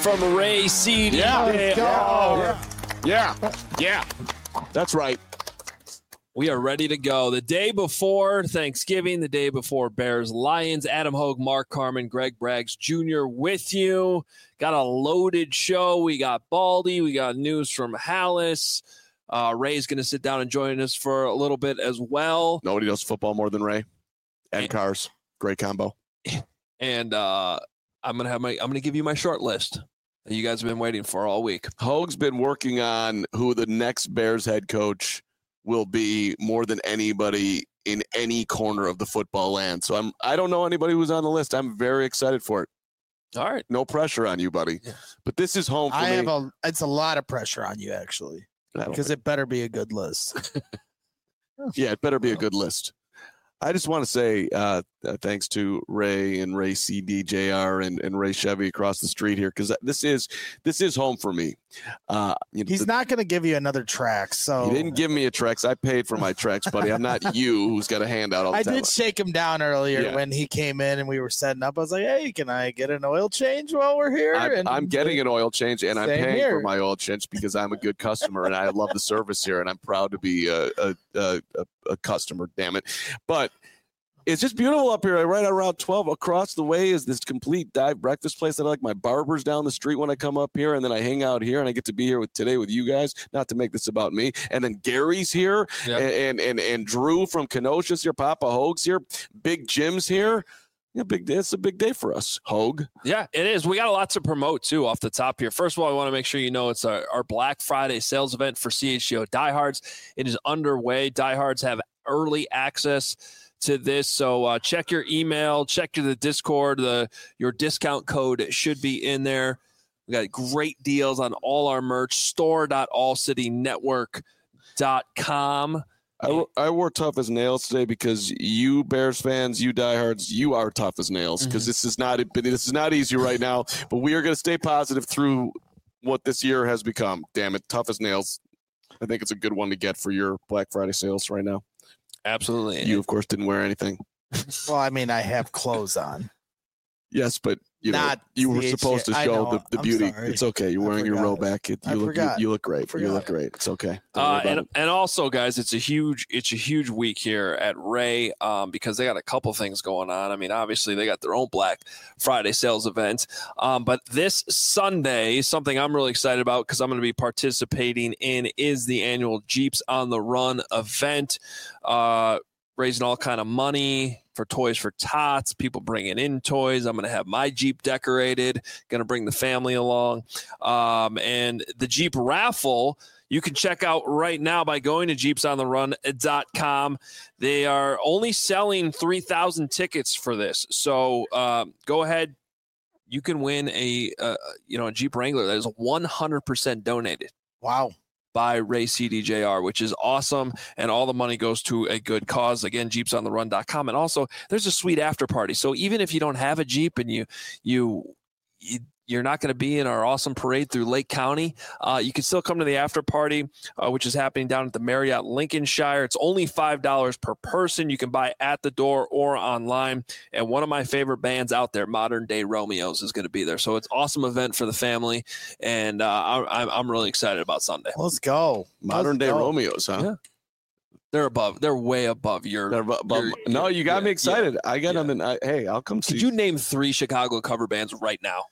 from Ray CD. Yeah. That's right. We are ready to go. The day before Thanksgiving, the day before Bears Lions. Adam Hogue, Mark Carman, Greg Braggs Jr. with you. Got a loaded show. We got Baldy. We got news from Hallis. Ray's going to sit down and join us for a little bit as well. Nobody knows football more than Ray. And cars. Great combo. And I'm gonna give you my short list that you guys have been waiting for all week. Hogue's been working on who the next Bears head coach will be more than anybody in any corner of the football land. So I don't know anybody who's on the list. I'm very excited for it. All right. No pressure on you, buddy. Yeah. But this is home for me. It's a lot of pressure on you, actually, because it better be a good list. Yeah, it better be a good list. I just want to say thanks to Ray and Ray CD, JR, and Ray Chevy across the street here, because this is home for me. He's not going to give you another Trax. So he didn't give me a Trax. I paid for my Trax, buddy. I'm not you who's got a handout all the time. I did shake him down earlier when he came in and we were setting up. I was like, hey, can I get an oil change while we're here? I'm getting an oil change, and I'm paying for my oil change because I'm a good customer, and I love the service here, and I'm proud to be a customer, damn it. But it's just beautiful up here. Right around 12 across the way is this complete dive breakfast place. I like my barber's down the street when I come up here, and then I hang out here, and I get to be here today with you guys. Not to make this about me. And then Gary's here, and Drew from Kenosha's here. Papa Hogue's here. Big Jim's here. Yeah, big day. It's a big day for us, Hogue. Yeah, it is. We got a lot to promote, too, off the top here. First of all, I want to make sure you know it's our Black Friday sales event for CHGO Diehards. It is underway. Diehards have early access to this, so check your email, check the Discord. Your discount code should be in there. We got great deals on all our merch. store.allcitynetwork.com. I wore tough as nails today because you Bears fans, you diehards, you are tough as nails because this is not easy right now. But we are going to stay positive through what this year has become. Damn it, tough as nails. I think it's a good one to get for your Black Friday sales right now. Absolutely. You, of course, didn't wear anything. Well, I mean, I have clothes on. Yes, but you were supposed to show the beauty. Sorry. It's okay. You're wearing your robe back. You look great. You look great. It's okay. And also, guys, it's a huge week here at Ray because they got a couple things going on. I mean, obviously they got their own Black Friday sales event, but this Sunday, something I'm really excited about because I'm going to be participating in is the annual Jeeps on the Run event, raising all kind of money for Toys for Tots, people bringing in toys. I'm going to have my Jeep decorated, going to bring the family along. And the Jeep raffle, you can check out right now by going to jeepsontherun.com. They are only selling 3,000 tickets for this. So go ahead. You can win a Jeep Wrangler that is 100% donated. Wow. By Ray CDJR, which is awesome, and all the money goes to a good cause. Again, jeepsontherun.com, and also there's a sweet after party. So even if you don't have a Jeep and you're not going to be in our awesome parade through Lake County, you can still come to the after party, which is happening down at the Marriott Lincolnshire. It's only $5 per person. You can buy at the door or online. And one of my favorite bands out there, Modern Day Romeos, is going to be there. So it's an awesome event for the family, and I'm really excited about Sunday. Let's go. Modern Day Romeos, huh? Yeah. They're way above your. No, you got me excited. I got them. Hey, I'll come see. Could you name 3 Chicago cover bands right now?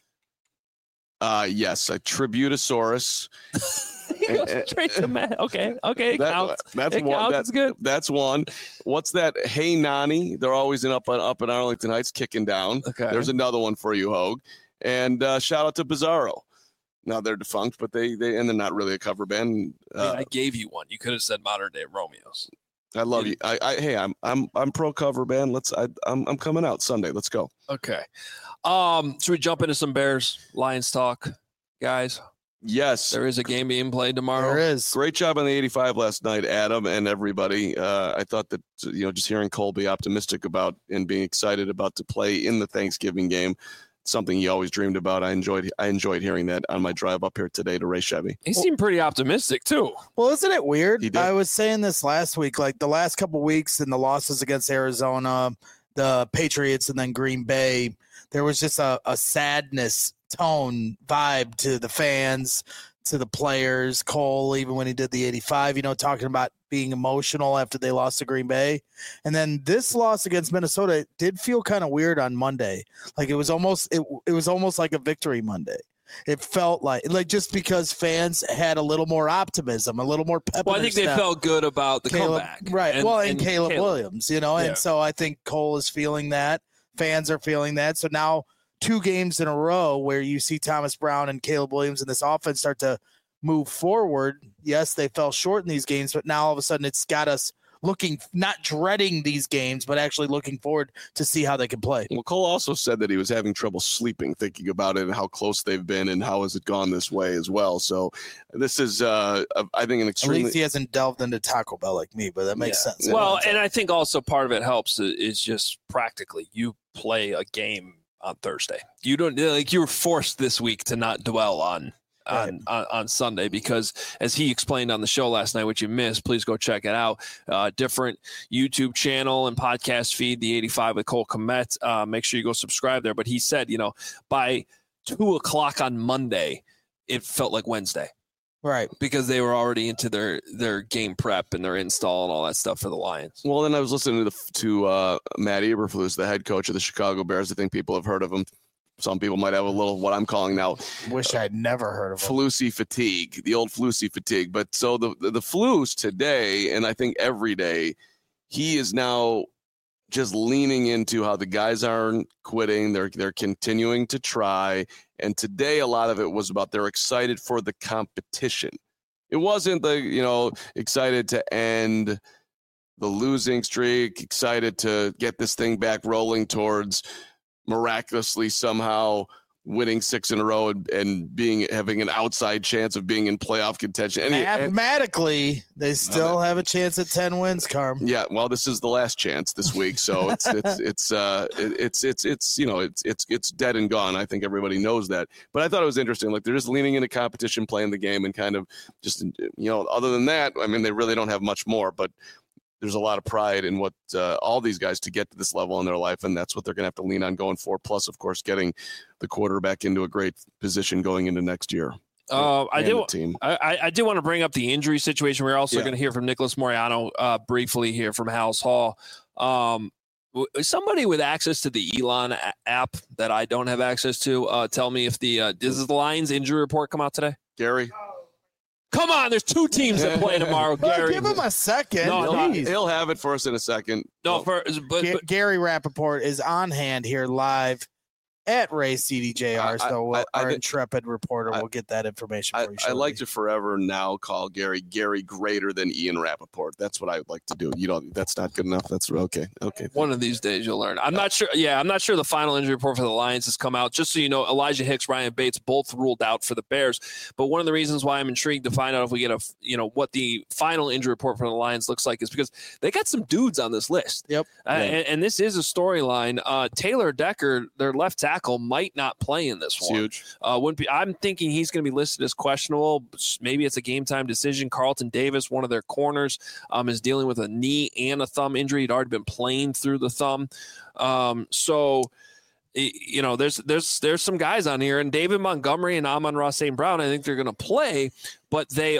Yes, a Tributosaurus. Straight to Matt. Okay, counts. That's it one. Counts. That's good. That's one. What's that? Hey Nani. They're always up in Arlington Heights, kicking down. Okay. There's another one for you, Hogue. And shout out to Bizarro. Now they're defunct, but they're not really a cover band. I gave you one. You could have said Modern Day Romeos. I love you. I'm pro cover band. I'm coming out Sunday. Let's go. Okay. Should we jump into some Bears Lions talk, guys? Yes. There is a game being played tomorrow. There is. Great job on the 85 last night, Adam and everybody. I thought that, just hearing Cole be optimistic about and being excited about to play in the Thanksgiving game, something he always dreamed about. I enjoyed hearing that on my drive up here today to Ray Chevy. He seemed pretty optimistic too. Well, isn't it weird? He did. I was saying this last week, like the last couple of weeks and the losses against Arizona, the Patriots, and then Green Bay, there was just a sadness tone vibe to the fans, to the players. Cole, even when he did the 85, talking about being emotional after they lost to Green Bay. And then this loss against Minnesota did feel kind of weird on Monday. Like it was almost like a victory Monday. It felt like just because fans had a little more optimism, a little more pep. Well, I think they felt good about the comeback. Right. And Caleb Williams, and so I think Cole is feeling that. Fans are feeling that. So now 2 games in a row where you see Thomas Brown and Caleb Williams in this offense start to move forward. Yes, they fell short in these games, but now all of a sudden it's got us looking, not dreading these games, but actually looking forward to see how they can play. Well, Cole also said that he was having trouble sleeping, thinking about it and how close they've been and how has it gone this way as well. So this is, I think, an extremely... At least he hasn't delved into Taco Bell like me, but that makes sense. Well, and I think also part of it helps is just practically you play a game on Thursday. You don't you were forced this week to not dwell on Sunday because, as he explained on the show last night, which you missed, please go check it out. Different YouTube channel and podcast feed, the 85 with Cole Kmet. Make sure you go subscribe there. But he said, by 2:00 on Monday, it felt like Wednesday. Right. Because they were already into their game prep and their install and all that stuff for the Lions. Well, then I was listening to Matt Eberflus, the head coach of the Chicago Bears. I think people have heard of him. Some people might have a little, what I'm calling now. Wish I'd never heard of him. Flusy fatigue, the old Flusy fatigue. But so the Flus today, and I think every day, he is now just leaning into how the guys aren't quitting. They're continuing to try. And today, a lot of it was about they're excited for the competition. It wasn't excited to end the losing streak, excited to get this thing back rolling towards miraculously somehow winning 6 in a row and having an outside chance of being in playoff contention. Mathematically, they still have a chance at 10 wins, Carm. Yeah, well, this is the last chance this week, so it's dead and gone. I think everybody knows that. But I thought it was interesting. Like, they're just leaning into competition, playing the game, and kind of just other than that, I mean, they really don't have much more. But there's a lot of pride in what all these guys to get to this level in their life, and that's what they're going to have to lean on going forward. Plus, of course, getting the quarterback into a great position going into next year. I do want to bring up the injury situation. We're also going to hear from Nicholas Moreano briefly here from Hal's Hall. Somebody with access to the Elon app that I don't have access to, tell me if does the Lions injury report come out today? Gary? Come on, there's 2 teams that play tomorrow, Gary. Give him a second. No, he'll have it for us in a second. But Gary Rappaport is on hand here live at Ray CDJR, so our intrepid reporter will get that information for you shortly. I like to forever now call Gary greater than Ian Rappaport. That's what I would like to do. That's not good enough. That's okay. One of these days you'll learn. I'm not sure. Yeah, I'm not sure the final injury report for the Lions has come out. Just so you know, Elijah Hicks, Ryan Bates both ruled out for the Bears. But one of the reasons why I'm intrigued to find out if we get what the final injury report for the Lions looks like is because they got some dudes on this list. Yep. And this is a storyline. Taylor Decker, their left tackle, might not play in this one. Huge. I'm thinking he's going to be listed as questionable. Maybe it's a game time decision. Carlton Davis, one of their corners, is dealing with a knee and a thumb injury. He'd already been playing through the thumb. There's some guys on here, and David Montgomery and Amon-Ra St. Brown, I think they're going to play, but they've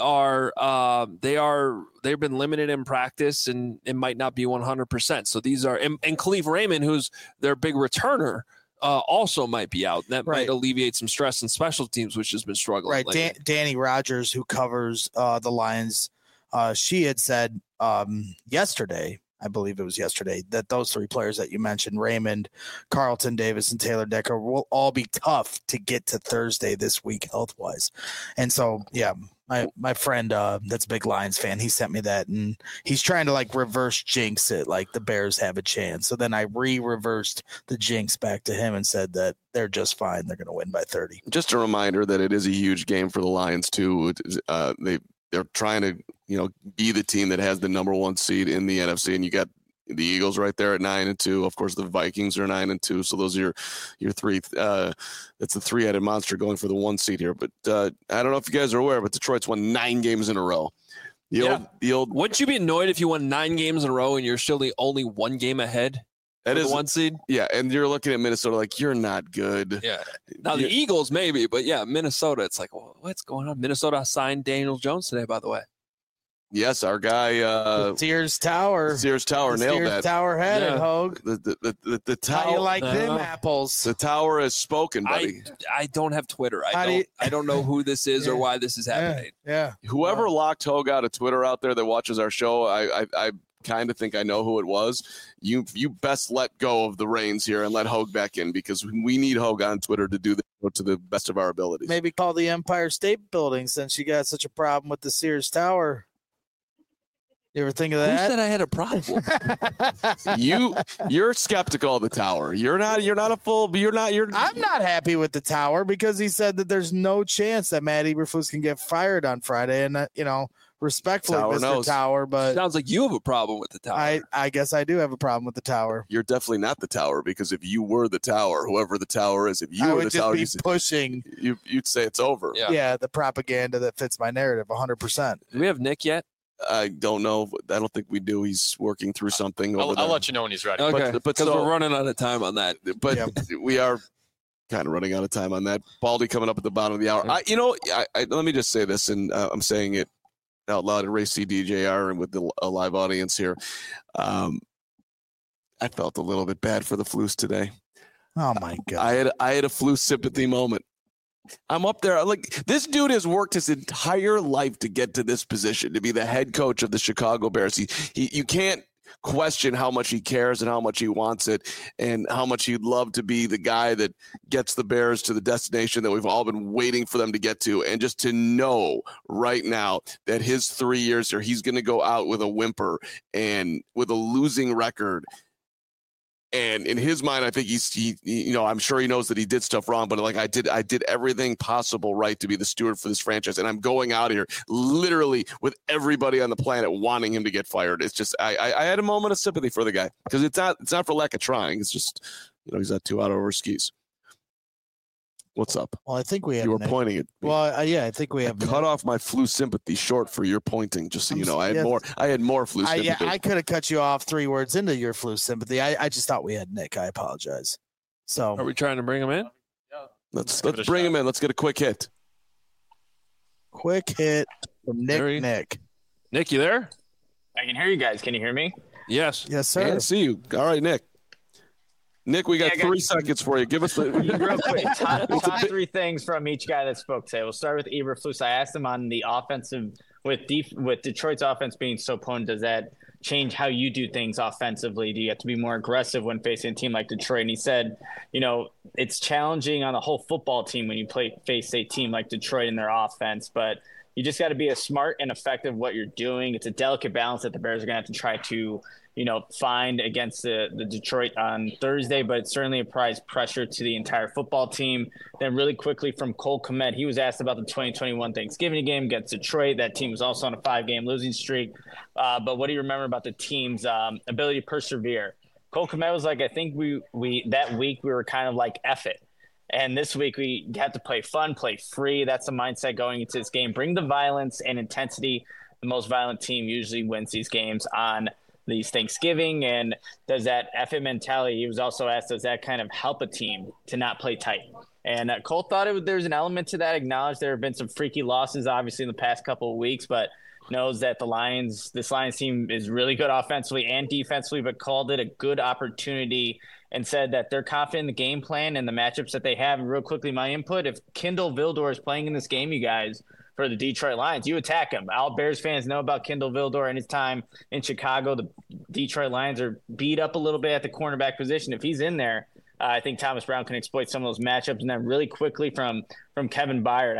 been limited in practice, and it might not be 100%. So these are, and Khalif Raymond, who's their big returner, also might be out. That might alleviate some stress in special teams, which has been struggling. Right. Danny Rogers, who covers the Lions, she had said yesterday, I believe it was yesterday, that those 3 players that you mentioned, Raymond, Carlton Davis, and Taylor Decker, will all be tough to get to Thursday this week health-wise. And so, my friend that's a big Lions fan, he sent me that, and he's trying to reverse jinx it, like the Bears have a chance. So then I reversed the jinx back to him and said that they're just fine. They're going to win by 30. Just a reminder that it is a huge game for the Lions too. They're trying to be the team that has the number 1 seed in the NFC, and you got the Eagles right there at 9-2. Of course, the Vikings are 9-2. So those are your 3. That's the 3-headed monster going for the 1 seed here. But I don't know if you guys are aware, but Detroit's won 9 games in a row. The old. Wouldn't you be annoyed if you won 9 games in a row and you're still the only 1 game ahead That is the 1 seed. Yeah, and you're looking at Minnesota like you're not good. Yeah. Now the Eagles maybe, but yeah, Minnesota. It's like, well, what's going on? Minnesota signed Daniel Jones today, by the way. Yes, our guy Sears Tower. Nailed that. Tower had it, Hogue. The tower. How you like them apples? The tower has spoken, buddy. I don't have Twitter. I don't know who this is or why this is happening. Yeah. Whoever locked Hogue out of Twitter out there that watches our show, I kind of think I know who it was. You best let go of the reins here and let Hogue back in, because we need Hogue on Twitter to do this to the best of our abilities. Maybe call the Empire State Building since you got such a problem with the Sears Tower. You ever think of that? Who said I had a problem? You're skeptical of the tower. I'm not happy with the tower because he said that there's no chance that Matt Eberflus can get fired on Friday, and respectfully, Mr. Tower, but sounds like you have a problem with the tower. I guess I do have a problem with the tower. You're definitely not the tower, because if you were the tower, whoever the tower is, if you were the tower, be pushing. You'd say it's over. Yeah, the propaganda that fits my narrative 100%. Do we have Nick yet? I don't know. I don't think we do. He's working through something. I'll let you know when he's ready. Okay, because we're running out of time on that. But we are kind of running out of time on that. Baldy coming up at the bottom of the hour. Let me just say this, and I'm saying it out loud at Race CDJR and with a live audience here. I felt a little bit bad for the Flus today. Oh my God! I had a Flus sympathy moment. I'm up there. Like, this dude has worked his entire life to get to this position, to be the head coach of the Chicago Bears. You can't question how much he cares and how much he wants it and how much he'd love to be the guy that gets the Bears to the destination that we've all been waiting for them to get to. And just to know right now that his 3 years here, he's going to go out with a whimper and with a losing record. And in his mind, I think I'm sure he knows that he did stuff wrong, but like I did everything possible right to be the steward for this franchise. And I'm going out here literally with everybody on the planet wanting him to get fired. It's just, I had a moment of sympathy for the guy, because it's not for lack of trying. It's just, he's not too out over his skis. What's up? Well, I think we have. You were pointing at me. Well, I think we have. Cut off my Flus sympathy short for your pointing, just so you know. I had more Flus sympathy. I could have cut you off 3 words into your Flus sympathy. I just thought we had Nick. I apologize. So, are we trying to bring him in? Let's bring him in. Let's get a quick hit. Quick hit from Nick. Nick, you there? I can hear you guys. Can you hear me? Yes. Yes, sir. I can see you. All right, Nick. Nick, we got 3 seconds for you. Give us the real quick top 3 things from each guy that spoke today. We'll start with Eberflus. I asked him on the offensive with Detroit's offense being so potent. Does that change how you do things offensively? Do you have to be more aggressive when facing a team like Detroit? And he said, it's challenging on the whole football team when you face a team like Detroit in their offense, but you just got to be as smart and effective what you're doing. It's a delicate balance that the Bears are going to have to try to find against the Detroit on Thursday, but it's certainly applies pressure to the entire football team. Then really quickly from Cole Kmet, he was asked about the 2021 Thanksgiving game against Detroit. That team was also on a 5-game losing streak. But what do you remember about the team's ability to persevere? Cole Kmet was like, I think we that week we were kind of like, F it. And this week we have to play fun, play free. That's the mindset going into this game. Bring the violence and intensity. The most violent team usually wins these games on these Thanksgiving. And does that F it mentality, he was also asked, does that kind of help a team to not play tight? And Cole thought there's an element to that, acknowledged there have been some freaky losses, obviously, in the past couple of weeks, but knows that this Lions team is really good offensively and defensively, but called it a good opportunity and said that they're confident in the game plan and the matchups that they have. And real quickly, my input, if Kindle Vildor is playing in this game, you guys, for the Detroit Lions, you attack him. All Bears fans know about Kindle Vildor and his time in Chicago. The Detroit Lions are beat up a little bit at the cornerback position. If he's in there, I think Thomas Brown can exploit some of those matchups. And then really quickly from Kevin Byard,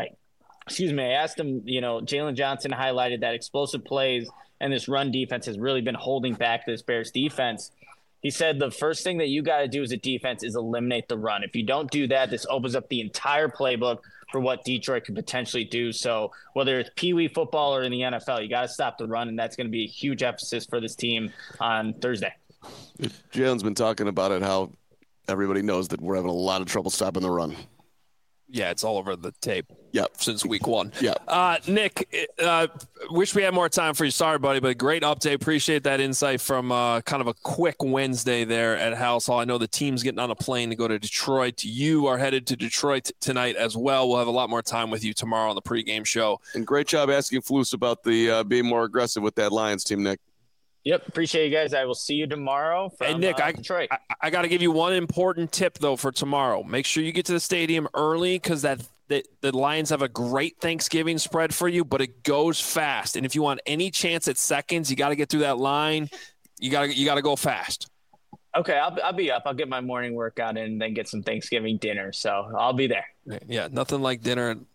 I asked him, Jalen Johnson highlighted that explosive plays and this run defense has really been holding back this Bears defense. He said the first thing that you got to do as a defense is eliminate the run. If you don't do that, this opens up the entire playbook for what Detroit could potentially do. So whether it's Pee Wee football or in the NFL, you got to stop the run, and that's going to be a huge emphasis for this team on Thursday. Jalen's been talking about it, how everybody knows that we're having a lot of trouble stopping the run. Yeah, it's all over the tape. Yep. Since week one. Yeah. Nick, wish we had more time for you. Sorry, buddy, but great update. Appreciate that insight from kind of a quick Wednesday there at House Hall. I know the team's getting on a plane to go to Detroit. You are headed to Detroit tonight as well. We'll have a lot more time with you tomorrow on the pregame show. And great job asking Flus about the being more aggressive with that Lions team, Nick. Yep, appreciate you guys. I will see you tomorrow from hey, Nick, Detroit. I got to give you one important tip, though, for tomorrow. Make sure you get to the stadium early because the Lions have a great Thanksgiving spread for you, but it goes fast. And if you want any chance at seconds, you got to get through that line. You got to go fast. Okay, I'll be up. I'll get my morning workout in and then get some Thanksgiving dinner. So I'll be there. Yeah, nothing like dinner at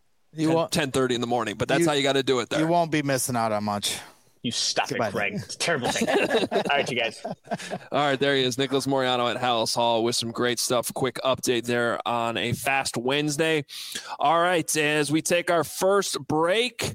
10:30 in the morning, but that's how you got to do it there. You won't be missing out on much. You stop it, Craig. It's a terrible thing. All right, you guys. All right, there he is, Nicholas Moreano at House Hall with some great stuff. Quick update there on a fast Wednesday. All right, as we take our first break,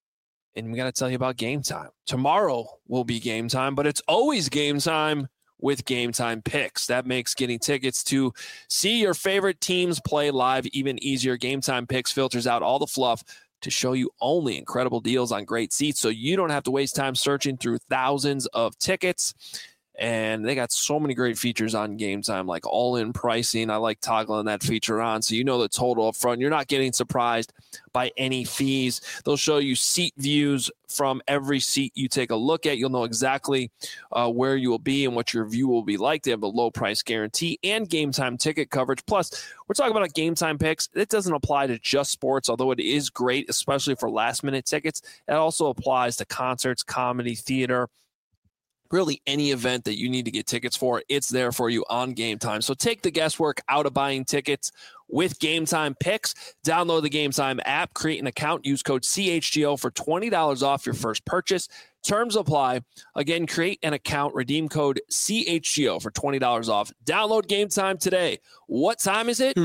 and we got to tell you about Game Time. Tomorrow will be Game Time, but it's always Game Time with Game Time Picks. That makes getting tickets to see your favorite teams play live even easier. Game Time Picks filters out all the fluff to show you only incredible deals on great seats, so you don't have to waste time searching through thousands of tickets. And they got so many great features on Game Time, like all-in pricing. I like toggling that feature on, so you know the total up front. You're not getting surprised by any fees. They'll show you seat views from every seat you take a look at. You'll know exactly where you will be and what your view will be like. They have a low price guarantee and Game Time ticket coverage. Plus, we're talking about Game Time Picks. It doesn't apply to just sports, although it is great, especially for last-minute tickets. It also applies to concerts, comedy, theater, really any event that you need to get tickets for. It's there for you on Game Time. So take the guesswork out of buying tickets with Game Time Picks. Download the Game Time app, create an account, use code CHGO for $20 off your first purchase. Terms apply. Again, create an account, redeem code CHGO for $20 off. Download Game Time today. What time is it?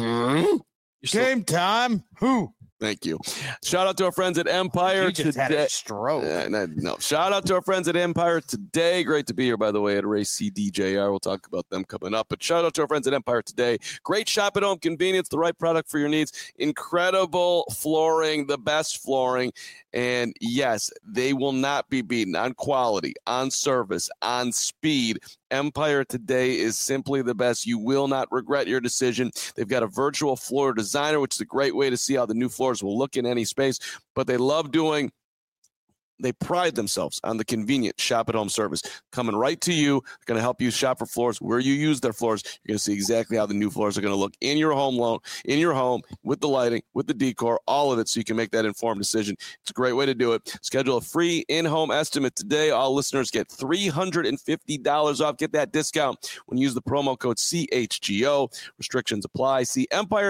Game time. Who? Thank you. Shout out to our friends at Empire just today. Had a stroke. No. Shout out to our friends at Empire today. Great to be here, by the way, at Race CDJR. We'll talk about them coming up. But shout out to our friends at Empire today. Great shop at home convenience, the right product for your needs. Incredible flooring, the best flooring. And yes, they will not be beaten on quality, on service, on speed. Empire today is simply the best. You will not regret your decision. They've got a virtual floor designer, which is a great way to see how the new floors will look in any space. But they pride themselves on the convenient shop-at-home service. Coming right to you, they're going to help you shop for floors where you use their floors. You're going to see exactly how the new floors are going to look in your home, with the lighting, with the decor, all of it, so you can make that informed decision. It's a great way to do it. Schedule a free in-home estimate today. All listeners get $350 off. Get that discount when you use the promo code CHGO. Restrictions apply. See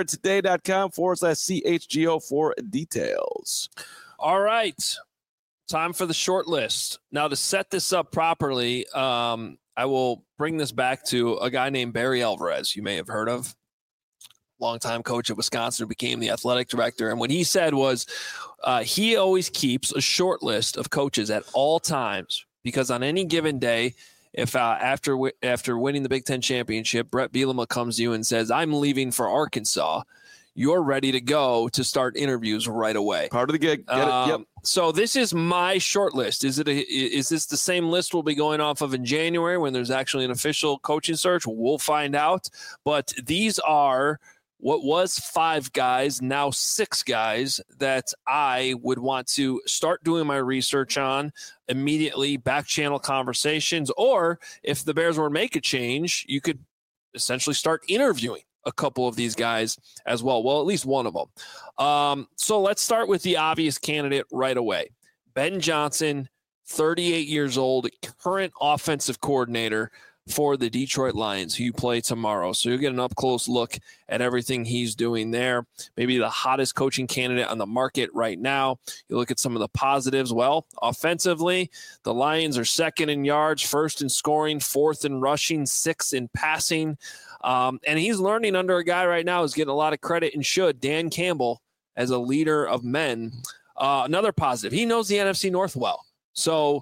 EmpireToday.com/CHGO for details. All right. Time for the short list. Now, to set this up properly, I will bring this back to a guy named Barry Alvarez, you may have heard of. Longtime coach at Wisconsin, who became the athletic director. And what he said was he always keeps a short list of coaches at all times, because on any given day, if after winning the Big Ten championship, Brett Bielema comes to you and says, I'm leaving for Arkansas, you're ready to go to start interviews right away. Part of the gig. Get it? Yep. So this is my short list. Is this the same list we'll be going off of in January when there's actually an official coaching search? We'll find out. But these are what was 5 guys, now 6 guys that I would want to start doing my research on immediately, back channel conversations, or if the Bears were to make a change, you could essentially start interviewing a couple of these guys as well. Well, at least one of them. So let's start with the obvious candidate right away. Ben Johnson, 38 years old, current offensive coordinator for the Detroit Lions, who you play tomorrow. So you'll get an up-close look at everything he's doing there. Maybe the hottest coaching candidate on the market right now. You look at some of the positives. Well, offensively, the Lions are second in yards, first in scoring, fourth in rushing, sixth in passing. And he's learning under a guy right now who's getting a lot of credit and should, Dan Campbell, as a leader of men. Another positive, he knows the NFC North well. So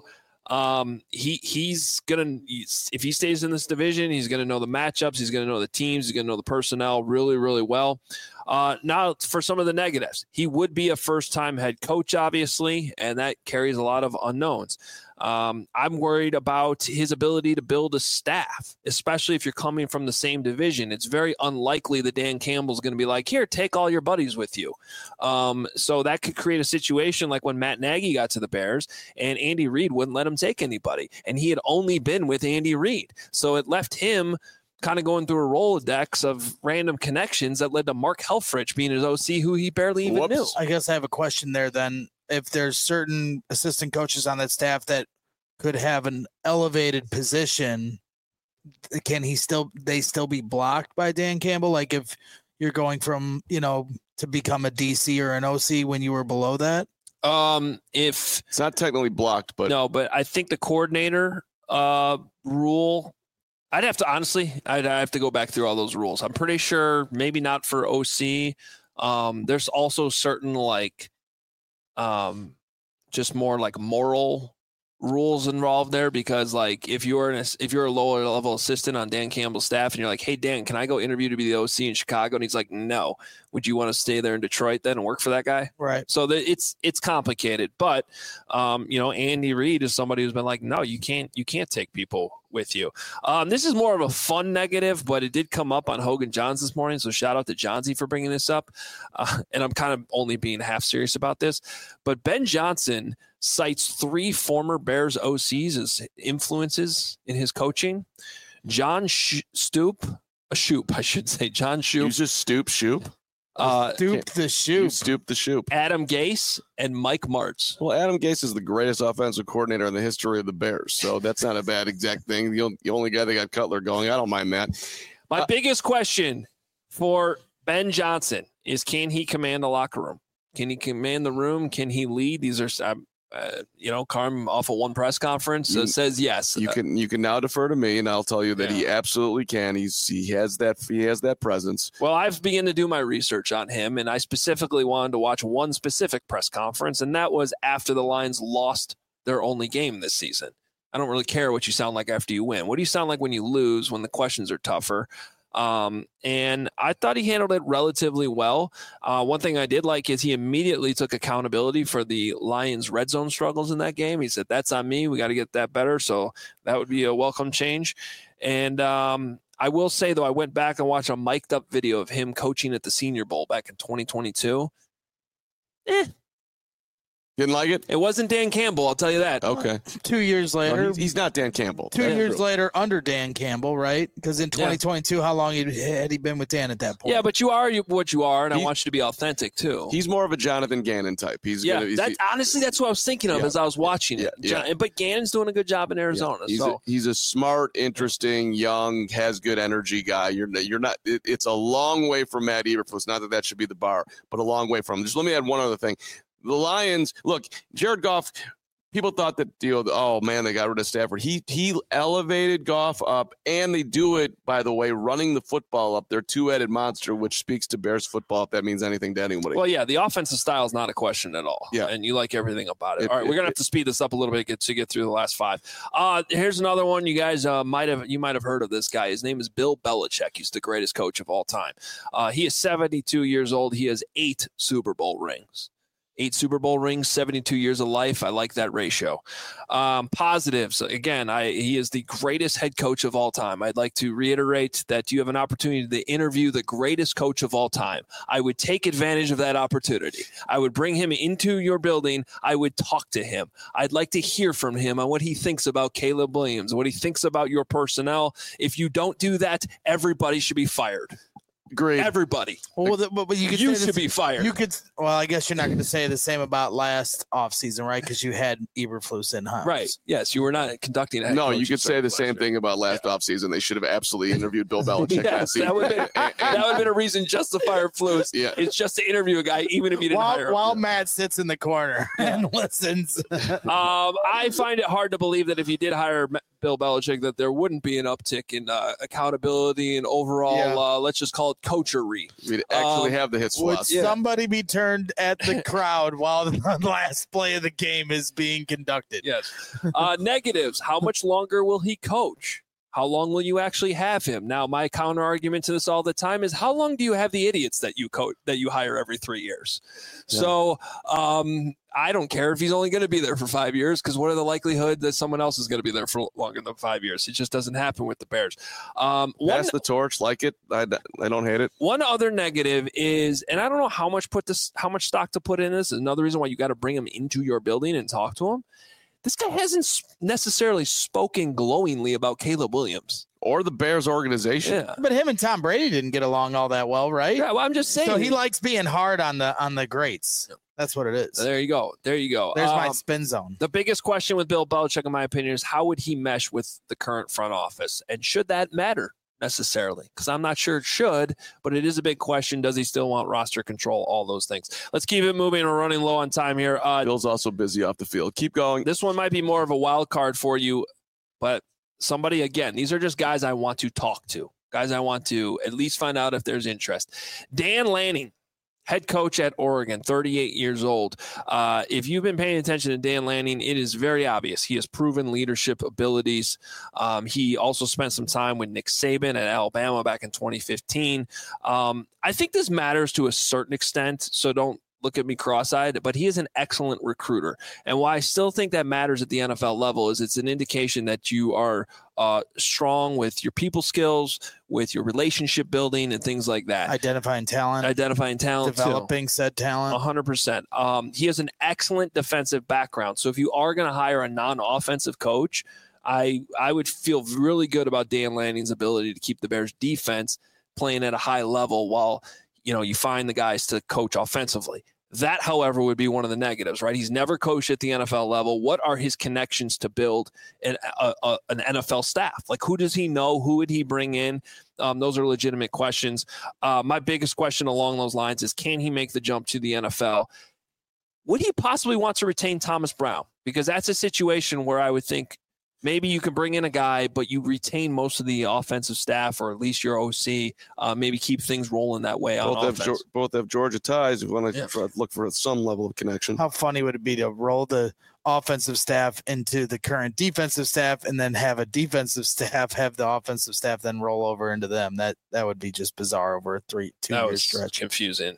He's gonna, if he stays in this division, he's gonna know the matchups, he's gonna know the teams, he's gonna know the personnel really, really well. Now for some of the negatives, he would be a first-time head coach, obviously, and that carries a lot of unknowns. I'm worried about his ability to build a staff, especially if you're coming from the same division. It's very unlikely that Dan Campbell's going to be like, here, take all your buddies with you. So that could create a situation like when Matt Nagy got to the Bears and Andy Reid wouldn't let him take anybody. And he had only been with Andy Reid. So it left him kind of going through a Rolodex of random connections that led to Mark Helfrich being his OC, who he barely even knew. I guess I have a question there then. If there's certain assistant coaches on that staff that could have an elevated position, can they still be blocked by Dan Campbell? Like if you're going from, to become a DC or an OC when you were below that? If it's not technically blocked, but no, but I think the coordinator rule, I'd have to go back through all those rules. I'm pretty sure maybe not for OC. There's also certain just more like moral rules involved there, because like if you're a lower level assistant on Dan Campbell's staff and you're like, hey Dan, can I go interview to be the OC in Chicago? And he's like, no. Would you want to stay there in Detroit then and work for that guy? Right. So it's complicated, but Andy Reid is somebody who's been like, no, you can't take people with you. This is more of a fun negative, but it did come up on Hogan Johns this morning. So shout out to Johnsy for bringing this up. And I'm kind of only being half serious about this, but Ben Johnson cites 3 former Bears OCs as influences in his coaching. John Shoop. John Shoop. You just Stoop. Stoop the Shoop. Adam Gase and Mike Martz. Well, Adam Gase is the greatest offensive coordinator in the history of the Bears, so that's not a bad exact thing. The only guy that got Cutler going, I don't mind that. My biggest question for Ben Johnson is, can he command the locker room? Can he command the room? Can he lead? These are Carm off of one press conference says yes. You can now defer to me, and I'll tell you that he absolutely can. He has that presence. Well, I've begun to do my research on him, and I specifically wanted to watch one specific press conference, and that was after the Lions lost their only game this season. I don't really care what you sound like after you win. What do you sound like when you lose, when the questions are tougher? And I thought he handled it relatively well. One thing I did like is he immediately took accountability for the Lions' red zone struggles in that game. He said, that's on me. We got to get that better. So that would be a welcome change. And I will say, though, I went back and watched a mic'd up video of him coaching at the Senior Bowl back in 2022. Didn't like it? It wasn't Dan Campbell, I'll tell you that. Okay. 2 years later. No, he's not Dan Campbell. 2 years later under Dan Campbell, right? Because in 2022, how long had he been with Dan at that point? Yeah, but you are what you are, and I want you to be authentic, too. He's more of a Jonathan Gannon type. Honestly, that's what I was thinking of as I was watching it. But Gannon's doing a good job in Arizona. He's a smart, interesting, young, has good energy guy. You're not. It's a long way from Matt Eberflus. Not that should be the bar, but a long way from him. Just let me add one other thing. The Lions, look, Jared Goff, people thought that, they got rid of Stafford. He elevated Goff up, and they do it, by the way, running the football up. Their two-headed monster, which speaks to Bears football, if that means anything to anybody. Well, yeah, the offensive style is not a question at all. Yeah. And you like everything about it. All right, we're going to have to speed this up a little bit to get through the last 5. Here's another one. You guys might have heard of this guy. His name is Bill Belichick. He's the greatest coach of all time. He is 72 years old. He has 8 Super Bowl rings. 8 Super Bowl rings, 72 years of life. I like that ratio. Positives. Again, he is the greatest head coach of all time. I'd like to reiterate that you have an opportunity to interview the greatest coach of all time. I would take advantage of that opportunity. I would bring him into your building. I would talk to him. I'd like to hear from him on what he thinks about Caleb Williams, what he thinks about your personnel. If you don't do that, everybody should be fired. Great. Everybody. Well, but you should be fired. You could. Well, I guess you're not going to say the same about last offseason, right? Because you had Eberflus in house. Right. Yes, you were not conducting. No, you could say the same thing about last offseason. They should have absolutely interviewed Bill Belichick last season. That would have been a reason just to fire Flus. Yeah. It's just to interview a guy, even if you didn't hire him. While Matt sits in the corner and listens. I find it hard to believe that if you did hire Bill Belichick that there wouldn't be an uptick in accountability and overall, let's just call it coachery. We'd actually have the hits. Would somebody be turned at the crowd while the last play of the game is being conducted? Yes. Negatives. How much longer will he coach? How long will you actually have him? Now, my counter argument to this all the time is how long do you have the idiots that you hire every 3 years? Yeah. So I don't care if he's only going to be there for 5 years, because what are the likelihood that someone else is going to be there for longer than 5 years? It just doesn't happen with the Bears. Pass the torch, like it. I don't hate it. One other negative is, and I don't know how much stock to put in this. Another reason why you got to bring him into your building and talk to him. This guy hasn't necessarily spoken glowingly about Caleb Williams or the Bears organization. Yeah. But him and Tom Brady didn't get along all that well, right? Yeah, well, I'm just saying. So he likes being hard on the greats. That's what it is. There you go. There's my spin zone. The biggest question with Bill Belichick, in my opinion, is how would he mesh with the current front office? And should that matter necessarily? Because I'm not sure it should, but it is a big question. Does he still want roster control? All those things. Let's keep it moving. We're running low on time here. Bill's also busy off the field. Keep going. This one might be more of a wild card for you, but somebody, again, these are just guys I want to talk to, guys I want to at least find out if there's interest. Dan Lanning, head coach at Oregon, 38 years old. If you've been paying attention to Dan Lanning, it is very obvious. He has proven leadership abilities. He also spent some time with Nick Saban at Alabama back in 2015. I think this matters to a certain extent, so don't look at me cross-eyed, but he is an excellent recruiter. And why I still think that matters at the NFL level is it's an indication that you are strong with your people skills, with your relationship building and things like that. Identifying talent. Developing said talent. 100%. He has an excellent defensive background. So if you are going to hire a non-offensive coach, I would feel really good about Dan Lanning's ability to keep the Bears defense playing at a high level while you find the guys to coach offensively. That, however, would be one of the negatives, right? He's never coached at the NFL level. What are his connections to build an NFL staff? Like, who does he know? Who would he bring in? Those are legitimate questions. My biggest question along those lines is, can he make the jump to the NFL? Would he possibly want to retain Thomas Brown? Because that's a situation where I would think maybe you can bring in a guy, but you retain most of the offensive staff, or at least your OC. Maybe keep things rolling that way on offense. Both have Georgia ties. If you want to look for some level of connection. How funny would it be to roll the offensive staff into the current defensive staff and then have a defensive staff have the offensive staff then roll over into them? That would be just bizarre over a 2-year stretch. Confusing.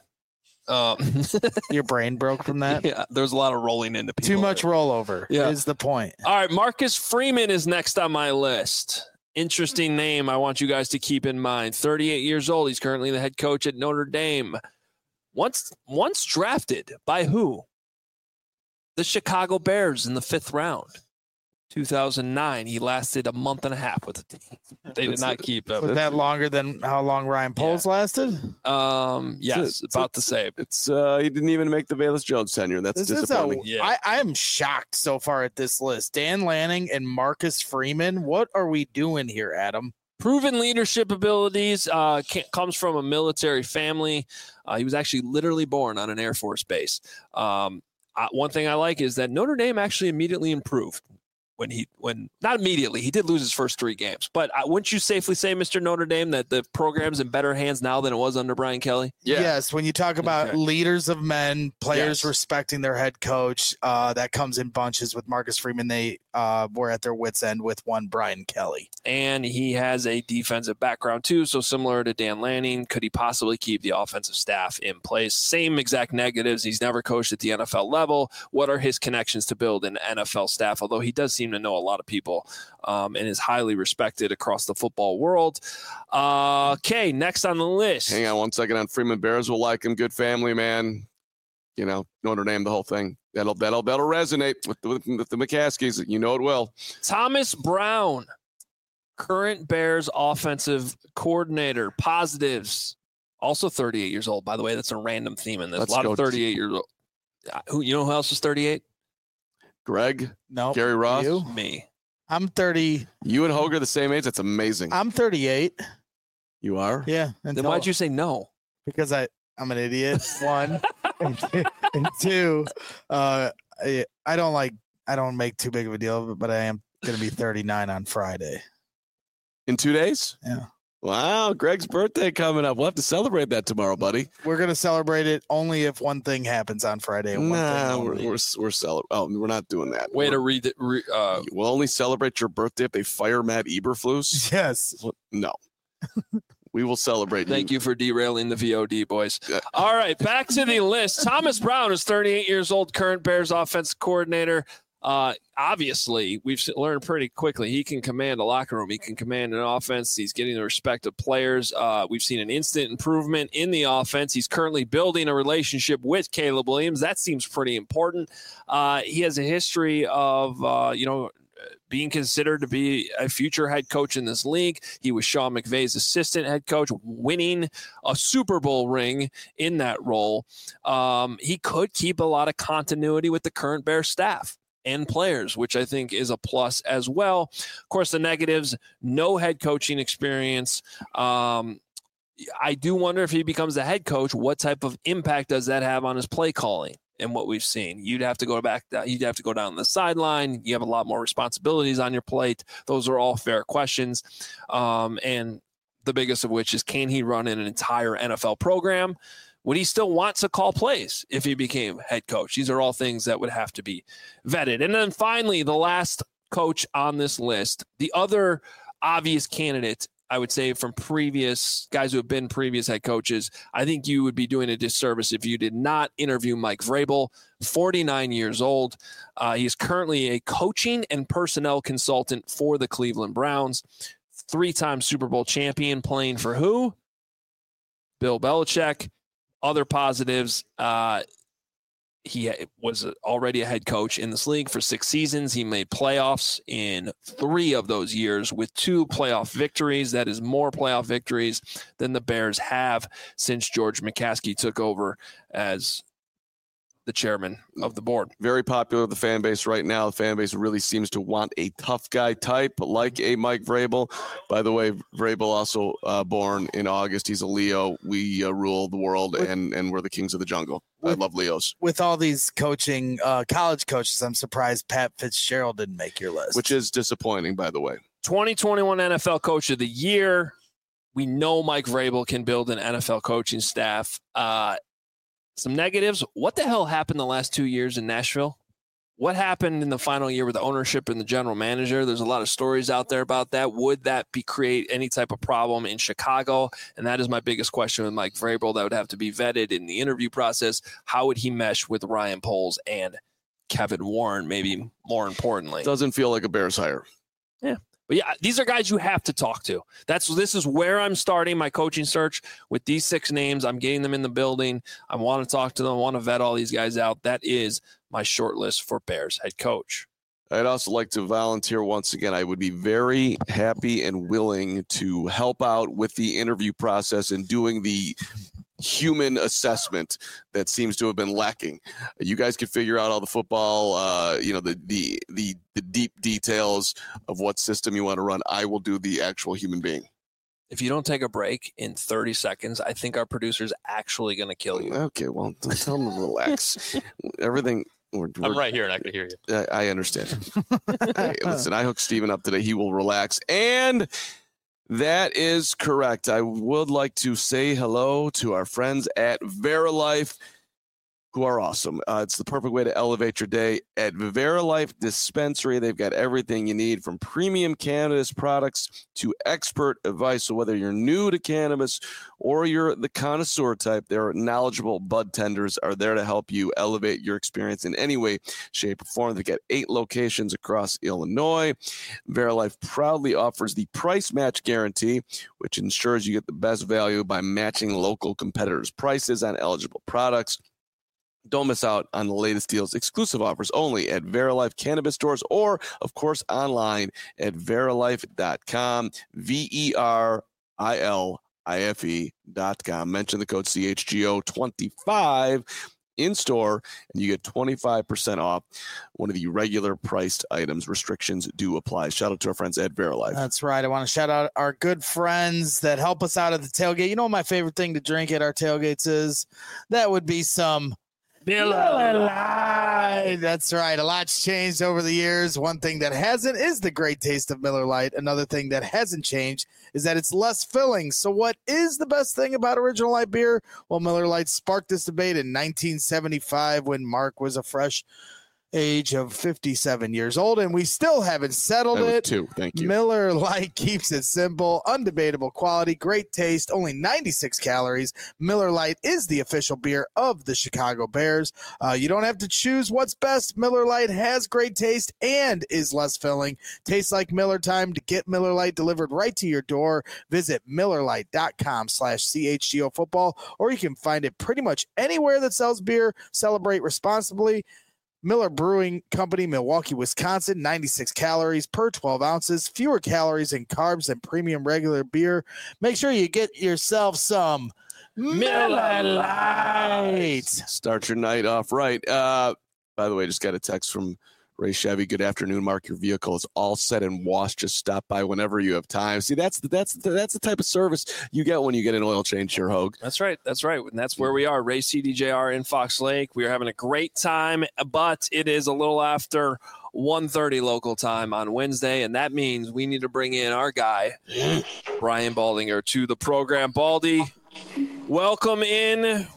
Your brain broke from that? Yeah, there's a lot of rolling into people. Too much rollover is the point. All right, Marcus Freeman is next on my list. Interesting name I want you guys to keep in mind. 38 years old. He's currently the head coach at Notre Dame. Once drafted by who? The Chicago Bears in the 5th round. 2009. He lasted a month and a half with the team. They did not keep him. Was that longer than how long Ryan Poles lasted? Yes, about the same. It's he didn't even make the Velus Jones tenure. That's disappointing. I am shocked so far at this list. Dan Lanning and Marcus Freeman. What are we doing here, Adam? Proven leadership abilities, comes from a military family. He was actually literally born on an Air Force base. One thing I like is that Notre Dame actually immediately improved. When not immediately, he did lose his first 3 games, but wouldn't you safely say, Mr. Notre Dame, that the program's in better hands now than it was under Brian Kelly? Yeah. Yes. When you talk about leaders of men, players respecting their head coach, that comes in bunches. With Marcus Freeman, they were at their wits' end with one Brian Kelly. And he has a defensive background too. So similar to Dan Lanning, could he possibly keep the offensive staff in place? Same exact negatives. He's never coached at the NFL level. What are his connections to build an NFL staff? Although he does seem to know a lot of people and is highly respected across the football world. Okay, next on the list. Hang on one second on Freeman. Bears will like him. Good family, man. Notre Dame, the whole thing. That'll resonate with the McCaskies. You know it will. Thomas Brown, current Bears offensive coordinator. Positives. Also 38 years old, by the way. That's a random theme in this. A lot of 38 years old. Who else is 38? Greg? No. Gary Ross? You? Me. I'm 30. You and Hoger the same age? That's amazing. I'm 38. You are? Yeah. Then why'd you say no? Because I'm an idiot, one. and two, I don't make too big of a deal of it, but I am Going to be 39 on Friday. In 2 days? Yeah. Wow, Greg's birthday coming up. We'll have to celebrate that tomorrow, buddy. We're going to celebrate it only if one thing happens on Friday. And we're celebrating. Oh, we're not doing that. Way to read it. We'll only celebrate your birthday if they fire Matt Eberflus. Yes. No. We will celebrate. Thank you for derailing the VOD, boys. All right, back to the list. Thomas Brown is 38 years old, current Bears offensive coordinator. Obviously, we've learned pretty quickly he can command a locker room. He can command an offense. He's getting the respect of players. We've seen an instant improvement in the offense. He's currently building a relationship with Caleb Williams. That seems pretty important. He has a history of, being considered to be a future head coach in this league. He was Sean McVay's assistant head coach, winning a Super Bowl ring in that role. He could keep a lot of continuity with the current Bears staff and players, which I think is a plus as well. Of course, the negatives, no head coaching experience. I do wonder if he becomes the head coach, what type of impact does that have on his play calling and what we've seen? You'd have to go down the sideline. You have a lot more responsibilities on your plate. Those are all fair questions. And the biggest of which is, can he run in an entire NFL program? Would he still want to call plays if he became head coach? These are all things that would have to be vetted. And then finally, the last coach on this list, the other obvious candidate, I would say, from previous guys who have been previous head coaches, I think you would be doing a disservice if you did not interview Mike Vrabel, 49 years old. He's currently a coaching and personnel consultant for the Cleveland Browns, 3-time Super Bowl champion, playing for who? Bill Belichick. Other positives, he was already a head coach in this league for 6 seasons. He made playoffs in 3 of those years with 2 playoff victories. That is more playoff victories than the Bears have since George McCaskey took over as the chairman of the board. Very popular with the fan base right now. The fan base really seems to want a tough guy type like a Mike Vrabel. By the way, Vrabel also born in August. He's a Leo. We rule the world, and we're the kings of the jungle. I love Leos. With all these coaching, college coaches, I'm surprised Pat Fitzgerald didn't make your list. Which is disappointing, by the way. 2021 NFL Coach of the Year. We know Mike Vrabel can build an NFL coaching staff. Some negatives. What the hell happened the last 2 years in Nashville? What happened in the final year with the ownership and the general manager? There's a lot of stories out there about that. Would that create any type of problem in Chicago? And that is my biggest question with Mike Vrabel. That would have to be vetted in the interview process. How would he mesh with Ryan Poles and Kevin Warren, maybe more importantly? Doesn't feel like a Bears hire. Yeah. But yeah, these are guys you have to talk to. This is where I'm starting my coaching search with these 6 names. I'm getting them in the building. I want to talk to them. I want to vet all these guys out. That is my short list for Bears head coach. I'd also like to volunteer once again. I would be very happy and willing to help out with the interview process and doing the human assessment that seems to have been lacking. You guys can figure out all the football, the deep details of what system you want to run. I will do the actual human being. If you don't take a break in 30 seconds, I think our producer's actually going to kill you. Okay, well, tell them to relax. Everything. I'm right here and I can hear you. I understand. Hey, listen, I hooked Steven up today. He will relax. And that is correct. I would like to say hello to our friends at Verilife, who are awesome. It's the perfect way to elevate your day. At Verilife Dispensary, they've got everything you need, from premium cannabis products to expert advice. So whether you're new to cannabis or you're the connoisseur type, their knowledgeable bud tenders are there to help you elevate your experience in any way, shape, or form. They've got 8 locations across Illinois. Verilife proudly offers the price match guarantee, which ensures you get the best value by matching local competitors' prices on eligible products. Don't miss out on the latest deals, exclusive offers only at Verilife Cannabis stores or, of course, online at verilife.com, VERILIFE.com. Mention the code CHGO25 in store, and you get 25% off one of the regular priced items. Restrictions do apply. Shout out to our friends at Verilife. That's right. I want to shout out our good friends that help us out at the tailgate. You know what my favorite thing to drink at our tailgates is? That would be some Miller Lite. right. That's right. A lot's changed over the years. One thing that hasn't is the great taste of Miller Lite. Another thing that hasn't changed is that it's less filling. So what is the best thing about Original Light beer? Well, Miller Lite sparked this debate in 1975 when Mark was a fresh age of 57 years old, and we still haven't settled it. Thank you. Miller Lite keeps it simple, undebatable quality, great taste, only 96 calories. Miller Lite is the official beer of the Chicago Bears. You don't have to choose what's best. Miller Lite has great taste and is less filling. Tastes like Miller time. To get Miller Lite delivered right to your door, visit MillerLite.com/CHGO football, or you can find it pretty much anywhere that sells beer. Celebrate responsibly. Miller Brewing Company, Milwaukee, Wisconsin, 96 calories per 12 ounces, fewer calories and carbs than premium regular beer. Make sure you get yourself some Miller Lite. Start your night off right. By the way, just got a text from Ray Chevy. Good afternoon, Mark. Your vehicle is all set and washed. Just stop by whenever you have time. See, that's the type of service you get when you get an oil change here, Hogue. That's right. And that's where we are. Ray CDJR in Fox Lake. We are having a great time, but it is a little after 1:30 local time on Wednesday, and that means we need to bring in our guy, Brian Baldinger, to the program. Baldy, welcome in.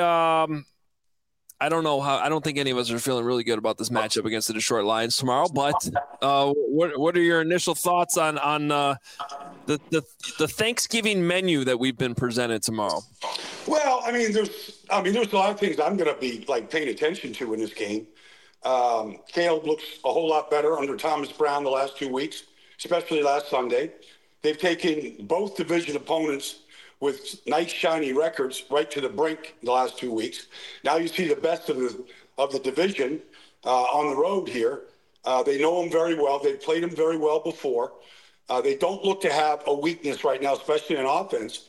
I don't think any of us are feeling really good about this matchup against the Detroit Lions tomorrow. But what are your initial thoughts on the Thanksgiving menu that we've been presented tomorrow? Well, there's a lot of things I'm going to be paying attention to in this game. Caleb looks a whole lot better under Thomas Brown the last 2 weeks, especially last Sunday. They've taken both division opponents with nice shiny records right to the brink the last 2 weeks. Now you see the best of the division on the road here. They know them very well. They've played them very well before. They don't look to have a weakness right now, especially in offense.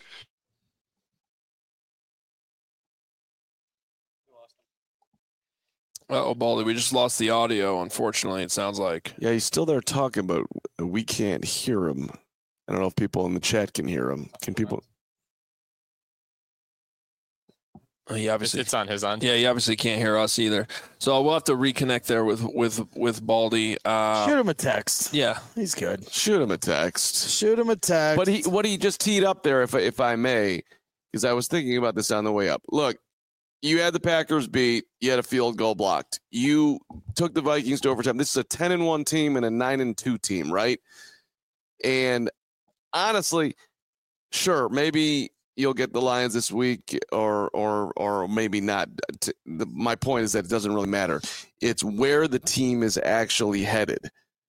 Oh, Baldy, we just lost the audio, unfortunately, it sounds like. Yeah, he's still there talking, but we can't hear him. I don't know if people in the chat can hear him. Can people... He obviously, it's on his end. Yeah, he obviously can't hear us either. So we'll have to reconnect there with Baldy. Shoot him a text. Yeah, he's good. Shoot him a text. But what he just teed up there, if I may, because I was thinking about this on the way up. Look, you had the Packers beat. You had a field goal blocked. You took the Vikings to overtime. This is a 10-1 team and a 9-2 team, right? And honestly, sure, maybe you'll get the Lions this week or maybe not. My point is that it doesn't really matter. It's where the team is actually headed.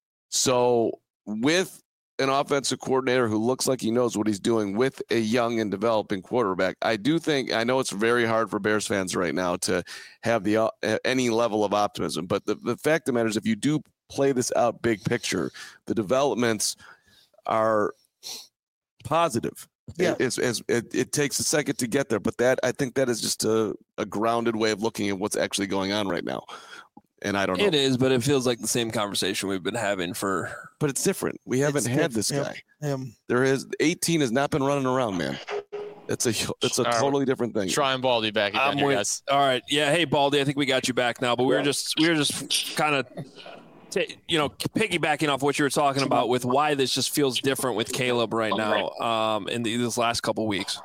So with an offensive coordinator who looks like he knows what he's doing with a young and developing quarterback, I know it's very hard for Bears fans right now to have any level of optimism. But the fact of the matter is, if you do play this out big picture, the developments are positive. Yeah. It takes a second to get there, but I think that is just a grounded way of looking at what's actually going on right now. And I don't know. It is, but it feels like the same conversation we've been having for. But it's different. We haven't had this guy. There is 18 has not been running around, man. It's a totally different thing. Try and Baldy back again, guys. All right, yeah. Hey, Baldy, I think we got you back now, but we were just kind of. Piggybacking off what you were talking about with why this just feels different with Caleb right now in this last couple weeks.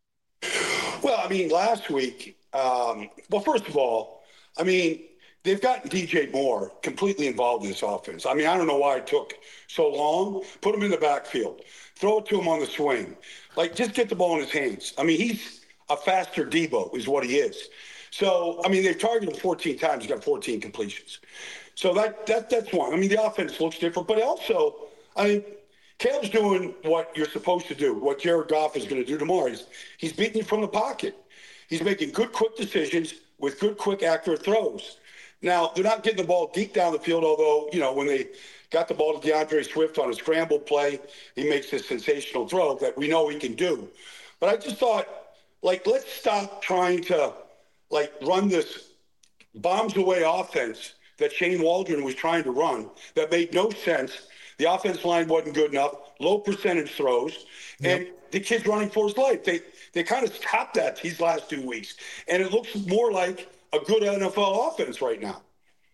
Well, last week, first of all, they've gotten DJ Moore completely involved in this offense. I don't know why it took so long. Put him in the backfield. Throw it to him on the swing. Just get the ball in his hands. He's a faster Debo is what he is. So, they've targeted him 14 times. He's got 14 completions. So that's one. The offense looks different, but also, Caleb's doing what you're supposed to do, what Jared Goff is going to do tomorrow. He's beating you from the pocket. He's making good, quick decisions with good, quick, accurate throws. Now, they're not getting the ball deep down the field, although, when they got the ball to DeAndre Swift on a scramble play, he makes this sensational throw that we know he can do. But I just thought, let's stop trying to, run this bombs-away offense that Shane Waldron was trying to run that made no sense. The offense line wasn't good enough, low percentage throws, and the kid's running for his life. They kind of stopped that these last 2 weeks, and it looks more like a good NFL offense right now.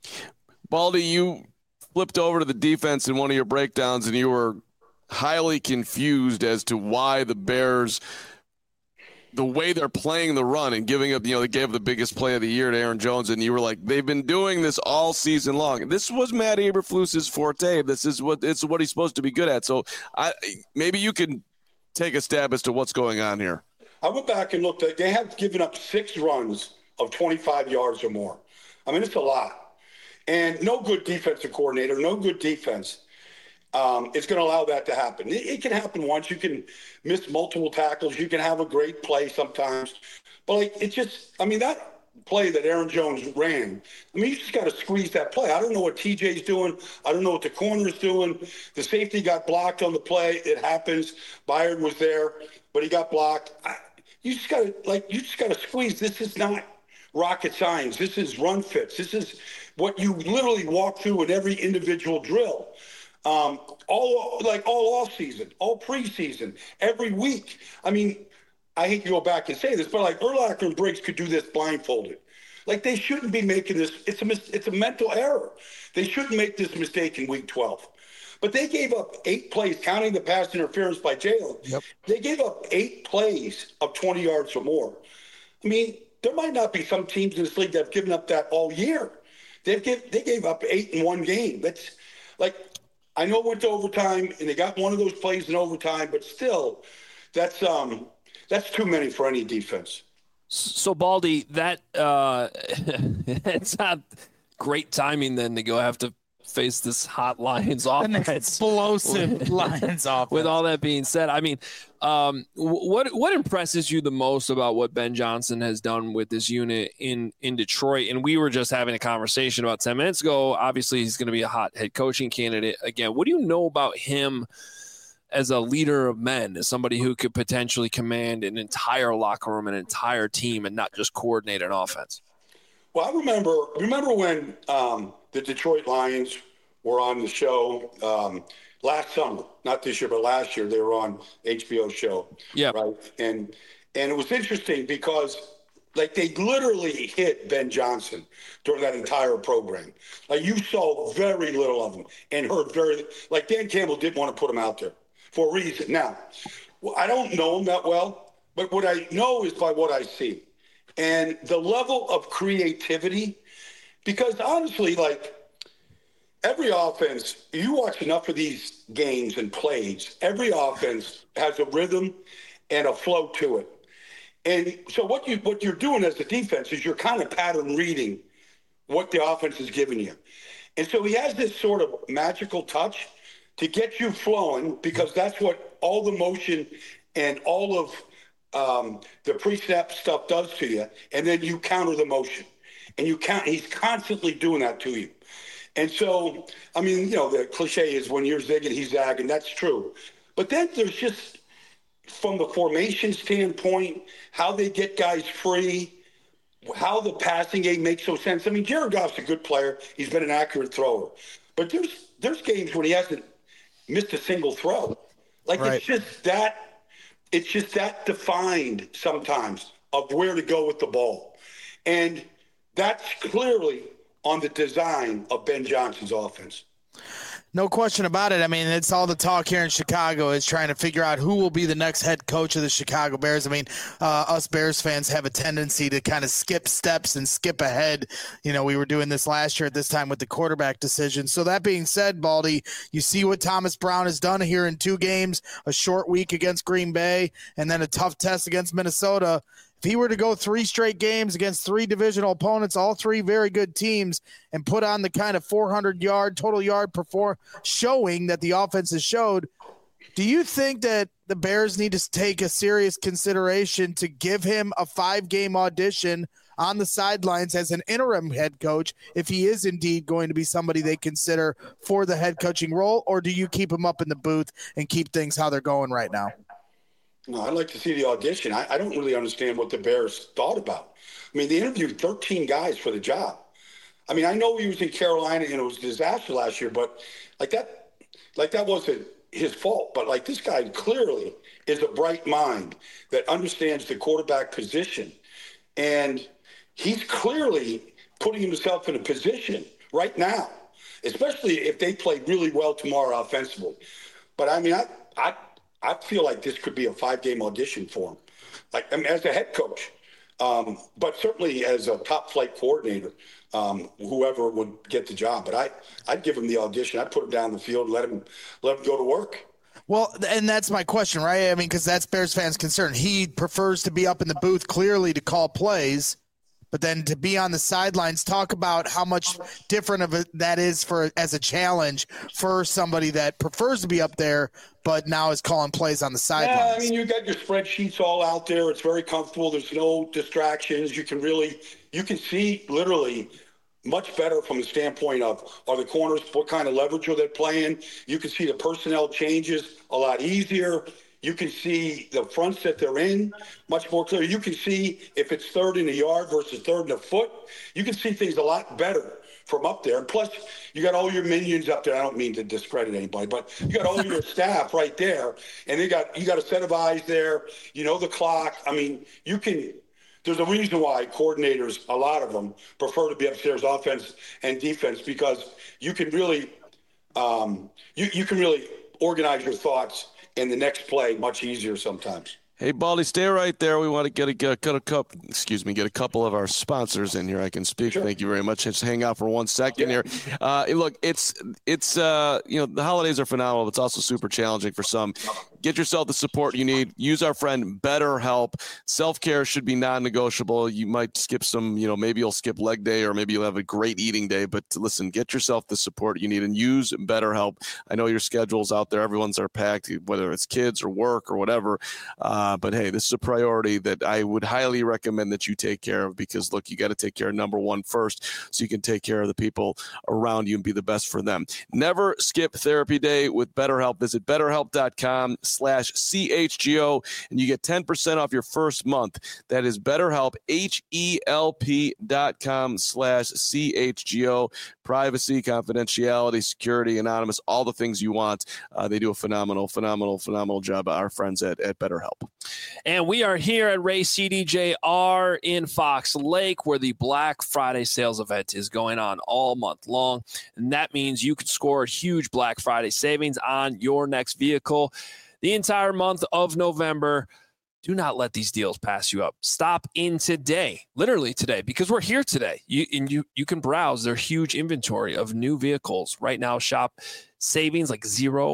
Baldy, you flipped over to the defense in one of your breakdowns, and you were highly confused as to why the Bears, the way they're playing the run and giving up, they gave the biggest play of the year to Aaron Jones, and you were like, they've been doing this all season long. This was Matt Eberflus's forte. This is what he's supposed to be good at. So maybe you can take a stab as to what's going on here. I went back and looked at, they have given up 6 runs of 25 yards or more. I mean, it's a lot. And no good defensive coordinator, no good defense is going to allow that to happen. It can happen once. You can miss multiple tackles. You can have a great play sometimes. But, that play that Aaron Jones ran, you just got to squeeze that play. I don't know what TJ's doing. I don't know what the corner's doing. The safety got blocked on the play. It happens. Byard was there, but he got blocked. You just got to squeeze. This is not rocket science. This is run fits. This is what you literally walk through in every individual drill. All off season, all preseason, every week. I hate to go back and say this, but Urlacher and Briggs could do this blindfolded. They shouldn't be making this. It's a mental error. They shouldn't make this mistake in week 12. But they gave up 8 plays, counting the pass interference by Jalen. Yep. They gave up 8 plays of 20 yards or more. There might not be some teams in this league that have given up that all year. They gave up 8 in one game. That's I know it went to overtime and they got one of those plays in overtime, but still, that's too many for any defense. So Baldy, that it's not great timing then to go have to face this hot Lions offense. An explosive Lions offense. With all that being said, what impresses you the most about what Ben Johnson has done with this unit in Detroit? And we were just having a conversation about 10 minutes ago. Obviously, he's going to be a hot head coaching candidate again. What do you know about him as a leader of men, as somebody who could potentially command an entire locker room, an entire team, and not just coordinate an offense? Well, I remember when the Detroit Lions were on the show last summer, not this year, but last year. They were on HBO show. Yeah. Right. And it was interesting because they literally hit Ben Johnson during that entire program. You saw very little of him and heard Dan Campbell didn't want to put him out there for a reason. Now, I don't know him that well, but what I know is by what I see. And the level of creativity, because honestly, every offense, you watch enough of these games and plays, every offense has a rhythm and a flow to it. And so what you're doing as a defense is you're kind of pattern reading what the offense is giving you. And so he has this sort of magical touch to get you flowing, because that's what all the motion and all of the pre-snap stuff does to you, and then you counter the motion. And he's constantly doing that to you. And so, the cliche is when you're zigging, he's zagging. That's true. But then there's just, from the formation standpoint, how they get guys free, how the passing game makes no sense. Jared Goff's a good player. He's been an accurate thrower. But there's games when he hasn't missed a single throw. Right. It's just that defined sometimes of where to go with the ball. And that's clearly on the design of Ben Johnson's offense. No question about it. It's all the talk here in Chicago is trying to figure out who will be the next head coach of the Chicago Bears. Us Bears fans have a tendency to kind of skip steps and skip ahead. We were doing this last year at this time with the quarterback decision. So that being said, Baldy, you see what Thomas Brown has done here in 2 games, a short week against Green Bay, and then a tough test against Minnesota. If he were to go 3 straight games against 3 divisional opponents, all 3 very good teams, and put on the kind of 400-yard total yard showing that the offense has showed, do you think that the Bears need to take a serious consideration to give him a 5-game audition on the sidelines as an interim head coach if he is indeed going to be somebody they consider for the head coaching role, or do you keep him up in the booth and keep things how they're going right now? No, I'd like to see the audition. I don't really understand what the Bears thought about. They interviewed 13 guys for the job. I know he was in Carolina and it was a disaster last year, but that wasn't his fault. But this guy clearly is a bright mind that understands the quarterback position. And he's clearly putting himself in a position right now, especially if they play really well tomorrow offensively. But I mean, I feel like this could be a 5-game audition for him. Like, I mean, as a head coach, but certainly as a top flight coordinator, whoever would get the job. But I'd give him the audition. I'd put him down the field, let him go to work. Well, and that's my question, right? I mean, because that's Bears fans' concern. He prefers to be up in the booth clearly to call plays, but then to be on the sidelines. Talk about how much different of that is as a challenge for somebody that prefers to be up there, but now is calling plays on the sidelines. Yeah, I mean, you got your spreadsheets all out there. It's very comfortable. There's no distractions. You can see literally much better from the standpoint of, are the corners, what kind of leverage are they playing? You can see the personnel changes a lot easier. You can see the fronts that they're in much more clear. You can see if it's 3rd and a yard versus 3rd and a foot. You can see things a lot better from up there. And plus, you got all your minions up there. I don't mean to discredit anybody, but you got all your staff right there. And you got a set of eyes there. You know the clock. I mean, there's a reason why coordinators, a lot of them, prefer to be upstairs, offense and defense, because you can really you can really organize your thoughts in the next play much easier sometimes. Hey, Baldy, stay right there. We want to get a couple of our sponsors in here. I can speak. Sure. Thank you very much. Just hang out for 1 second here. Look, it's the holidays are phenomenal. It's also super challenging for some. Get yourself the support you need. Use our friend BetterHelp. Self-care should be non-negotiable. You might skip some, maybe you'll skip leg day or maybe you'll have a great eating day. But listen, get yourself the support you need and use BetterHelp. I know your schedules out there. Everyone's are packed, whether it's kids or work or whatever. But hey, this is a priority that I would highly recommend that you take care of, because look, you got to take care of number one first so you can take care of the people around you and be the best for them. Never skip therapy day with BetterHelp. Visit BetterHelp.com/CHGO and you get 10% off your first month. That is BetterHelp, HELP.com/CHGO. Privacy, confidentiality, security, anonymous, all the things you want. They do a phenomenal job, our friends at BetterHelp. And we are here at Ray CDJR in Fox Lake, where the Black Friday sales event is going on all month long. And that means you can score huge Black Friday savings on your next vehicle the entire month of November. Do not let these deals pass you up. Stop in today, literally today, because we're here today. You can browse their huge inventory of new vehicles. Right now, shop savings like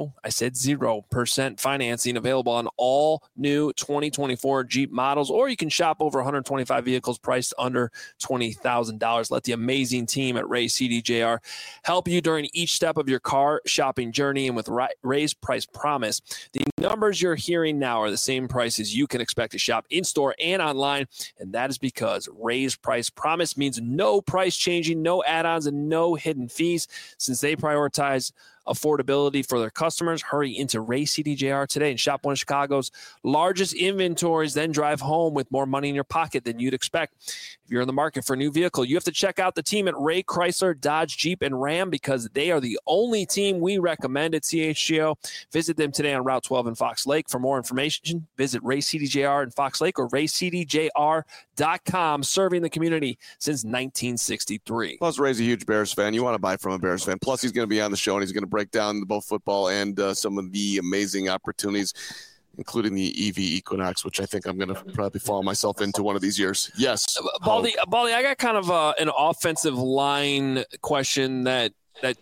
0% financing available on all new 2024 Jeep models, or you can shop over 125 vehicles priced under $20,000. Let the amazing team at Ray CDJR help you during each step of your car shopping journey. And with Ray's Price Promise, the numbers you're hearing now are the same prices you can expect to shop in-store and online, and that is because Ray's Price Promise means no price changing, no add-ons, and no hidden fees. Since they prioritize affordability for their customers, hurry into Ray CDJR today and shop one of Chicago's largest inventories, then drive home with more money in your pocket than you'd expect. If you're in the market for a new vehicle, you have to check out the team at Ray Chrysler, Dodge, Jeep, and Ram, because they are the only team we recommend at CHGO. Visit them today on Route 12 in Fox Lake. For more information, visit Ray CDJR in Fox Lake or raycdjr.com, serving the community since 1963. Plus, Ray's a huge Bears fan. You want to buy from a Bears fan. Plus, he's going to be on the show, and he's going to break down both football and some of the amazing opportunities, including the EV Equinox, which I think I'm going to probably fall myself into one of these years. Yes. Baldy, I got kind of an offensive line question that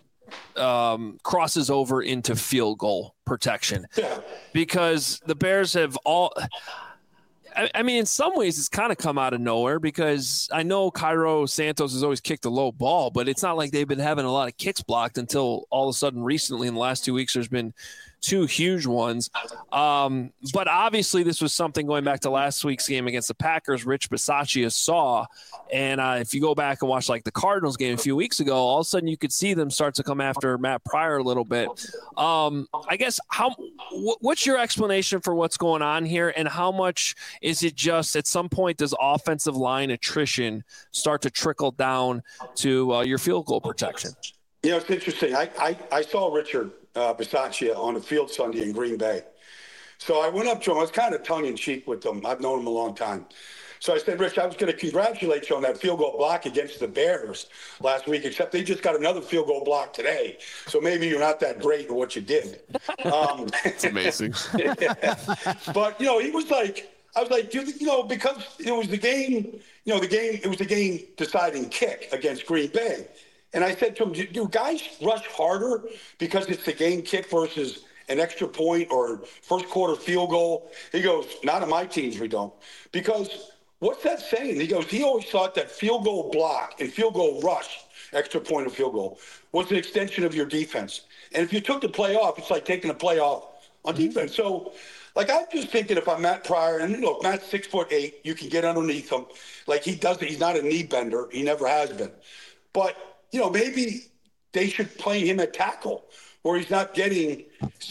crosses over into field goal protection, because the Bears have all – I mean, in some ways, it's kind of come out of nowhere, because I know Cairo Santos has always kicked a low ball, but it's not like they've been having a lot of kicks blocked until all of a sudden recently in the last 2 weeks there's been two huge ones. But obviously this was something going back to last week's game against the Packers, Rich Bisaccia saw. And if you go back and watch like the Cardinals game a few weeks ago, all of a sudden you could see them start to come after Matt Pryor a little bit. I guess what's your explanation for what's going on here, and how much is it just at some point does offensive line attrition start to trickle down to your field goal protection? You know, it's interesting. I saw Richard Bisaccia on the field Sunday in Green Bay. So I went up to him. I was kind of tongue-in-cheek with him. I've known him a long time. So I said, Rich, I was going to congratulate you on that field goal block against the Bears last week, except they just got another field goal block today. So maybe you're not that great in what you did. It's amazing. But, he was like, I was like, because it was the game, it was the game deciding kick against Green Bay. And I said to him, do guys rush harder because it's the game kick versus an extra point or first quarter field goal? He goes, not on my teams, we don't. Because what's that saying? He goes, he always thought that field goal block and field goal rush, extra point or field goal, was an extension of your defense. And if you took the play off, it's like taking a play off on defense. So, like, I'm just thinking if I'm Matt Pryor, and look, Matt's 6'8", you can get underneath him. Like, he's not a knee bender. He never has been. But, maybe they should play him at tackle where he's not getting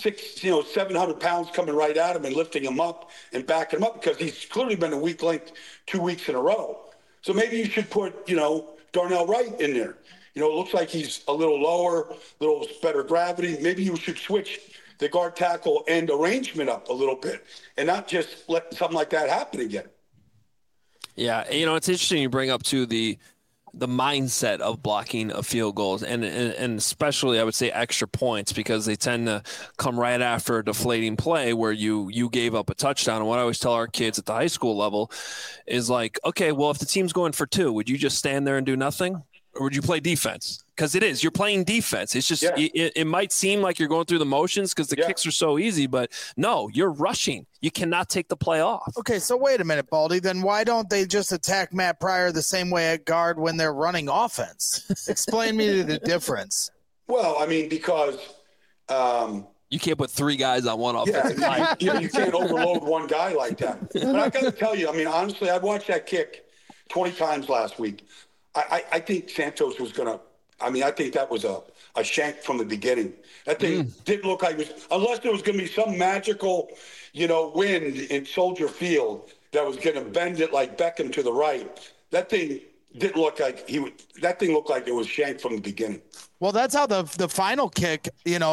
700 pounds coming right at him and lifting him up and backing him up, because he's clearly been a weak link 2 weeks in a row. So maybe you should put, Darnell Wright in there. It looks like he's a little lower, a little better gravity. Maybe you should switch the guard tackle and arrangement up a little bit and not just let something like that happen again. Yeah. It's interesting you bring up too the mindset of blocking of field goals and especially I would say extra points, because they tend to come right after a deflating play where you gave up a touchdown. And what I always tell our kids at the high school level is like, okay, well, if the team's going for 2, would you just stand there and do nothing? Or would you play defense? Because you're playing defense. It's just, it might seem like you're going through the motions because the kicks are so easy, but no, you're rushing. You cannot take the play off. Okay, so wait a minute, Baldy. Then why don't they just attack Matt Pryor the same way at guard when they're running offense? Explain me the difference. Well, I mean, because you can't put 3 guys on one offensive line. You can't overload one guy like that. But I got to tell you, I mean, honestly, I watched that kick 20 times last week. I think Santos was going to – I mean, I think that was a shank from the beginning. That thing didn't look like it was – unless there was going to be some magical, wind in Soldier Field that was going to bend it like Beckham to the right. That thing didn't look like that thing looked like it was shanked from the beginning. Well, that's how the final kick,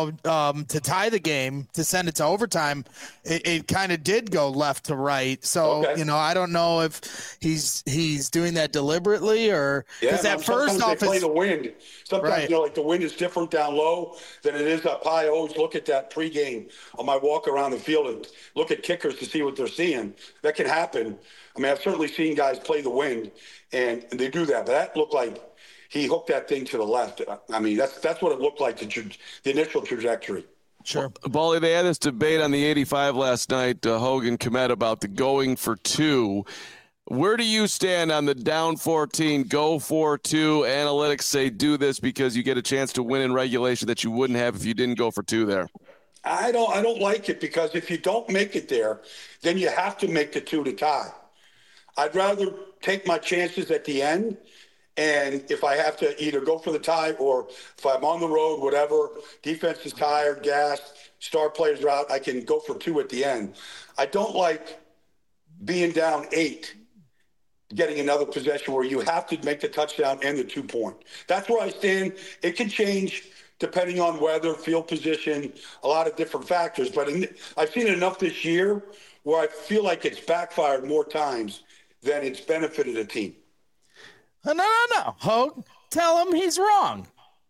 to tie the game, to send it to overtime, it kind of did go left to right. So, okay. I don't know if he's doing that deliberately or because that first off they play the wind. Sometimes, like the wind is different down low than it is up high. I always look at that pregame on my walk around the field and look at kickers to see what they're seeing. That can happen. I mean, I've certainly seen guys play the wind, and they do that. But that looked like he hooked that thing to the left. I mean, that's what it looked like, the initial trajectory. Sure. Baldy, they had this debate on the 85 last night, Hogan, Kmet, about the going for 2. Where do you stand on the down 14, go for 2? Analytics say do this because you get a chance to win in regulation that you wouldn't have if you didn't go for 2 there. I don't like it, because if you don't make it there, then you have to make the 2 to tie. I'd rather take my chances at the end. And if I have to either go for the tie or if I'm on the road, whatever, defense is tired, gassed, star players are out, I can go for 2 at the end. I don't like being down 8, getting another possession where you have to make the touchdown and the 2-point. That's where I stand. It can change depending on weather, field position, a lot of different factors. But I've seen it enough this year where I feel like it's backfired more times than it's benefited a team. No. Hogue, tell him he's wrong.